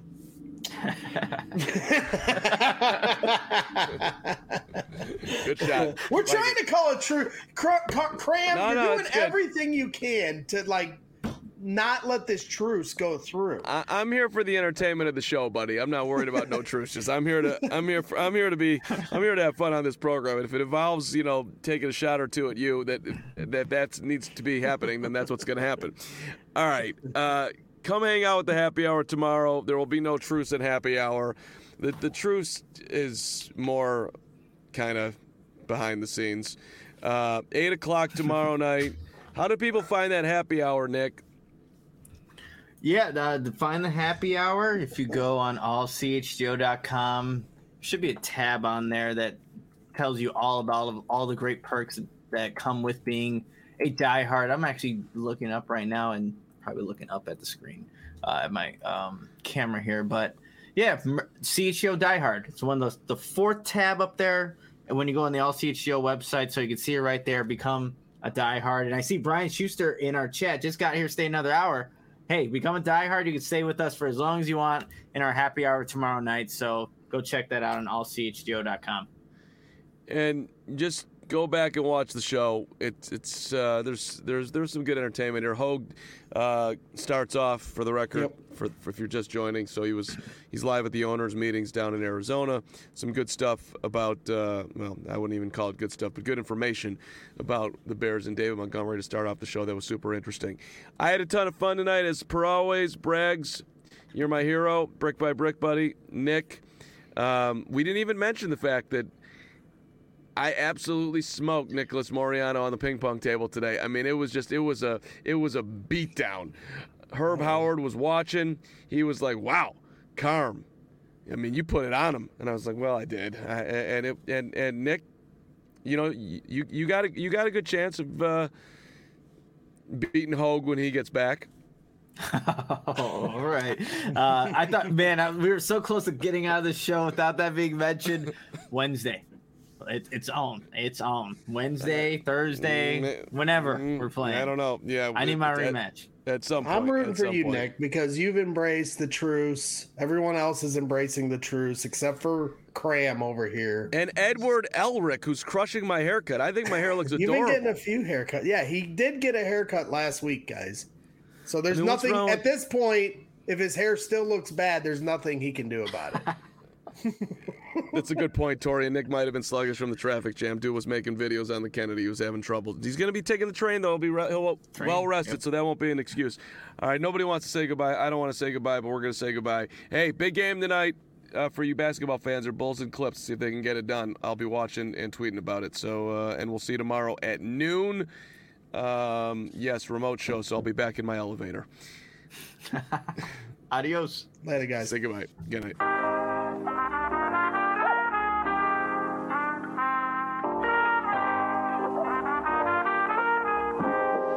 Good shot. We're Like trying it. to call it true. Cr- cr- Cram, No, you're no, doing it's good. everything you can to like not let this truce go through. I, I'm here for the entertainment of the show, buddy. I'm not worried about no truces. I'm here to. I'm here. For, I'm here to be. I'm here to have fun on this program. And if it involves, you know, taking a shot or two at you, that that that needs to be happening, then that's what's going to happen. All right. Uh, come hang out with the happy hour tomorrow. There will be no truce at happy hour. The the truce is more kind of behind the scenes. Uh, Eight o'clock tomorrow night. How do people find that happy hour, Nick? Yeah, uh, to find the happy hour, if you go on all c h g o dot com, there should be a tab on there that tells you all about all, of, all the great perks that come with being a diehard. I'm actually looking up right now and probably looking up at the screen uh, at my um, camera here. But yeah, C H G O Diehard. It's one of those, the fourth tab up there. And when you go on the All C H G O website, so you can see it right there, become a diehard. And I see Brian Schuster in our chat just got here, stay another hour. Hey, become a diehard. You can stay with us for as long as you want in our happy hour tomorrow night. So go check that out on all c h g o dot com. And just go back and watch the show. It's it's uh, there's there's there's some good entertainment here. Hogue uh, starts off, for the record, Yep. for, for if you're just joining. So he was he's live at the owners' meetings down in Arizona. Some good stuff about uh, well, I wouldn't even call it good stuff, but good information about the Bears and David Montgomery to start off the show. That was super interesting. I had a ton of fun tonight, as per always. Braggs, you're my hero, brick by brick, buddy. Nick, um, we didn't even mention the fact that I absolutely smoked Nicholas Moriano on the ping pong table today. I mean, it was just, it was a, it was a beatdown. Herb Howard was watching. He was like, "Wow, Carm. I mean, you put it on him." And I was like, "Well, I did." I, and it, and and Nick, you know, you you got a you got a good chance of uh, beating Hogue when he gets back. Oh, all right. Uh, I thought, man, I, we were so close to getting out of the show without that being mentioned. Wednesday. It, it's on. It's on. Wednesday, Thursday, Mm, whenever mm, we're playing. I don't know. Yeah, I need my at- rematch. At some point. I'm rooting at for some you, point. Nick, because you've embraced the truce. Everyone else is embracing the truce except for Cram over here. And Edward Elric, who's crushing my haircut. I think my hair looks You've adorable. been getting a few haircuts. Yeah, he did get a haircut last week, guys. So there's I mean, what's nothing wrong at with- this point. If his hair still looks bad, there's nothing he can do about it. That's a good point, Tori. And Nick might have been sluggish from the traffic jam. Dude was making videos on the Kennedy. He was having trouble. He's going to be taking the train, though. He'll be re- he'll Train, well rested, yep. so that won't be an excuse. All right, nobody wants to say goodbye. I don't want to say goodbye, but we're going to say goodbye. Hey, big game tonight uh, for you basketball fans. Are Bulls and Clips. See if they can get it done. I'll be watching and tweeting about it. So, uh, and we'll see you tomorrow at noon. Um, yes, remote show, so I'll be back in my elevator. Adios. Later, guys. Say goodbye. Good night.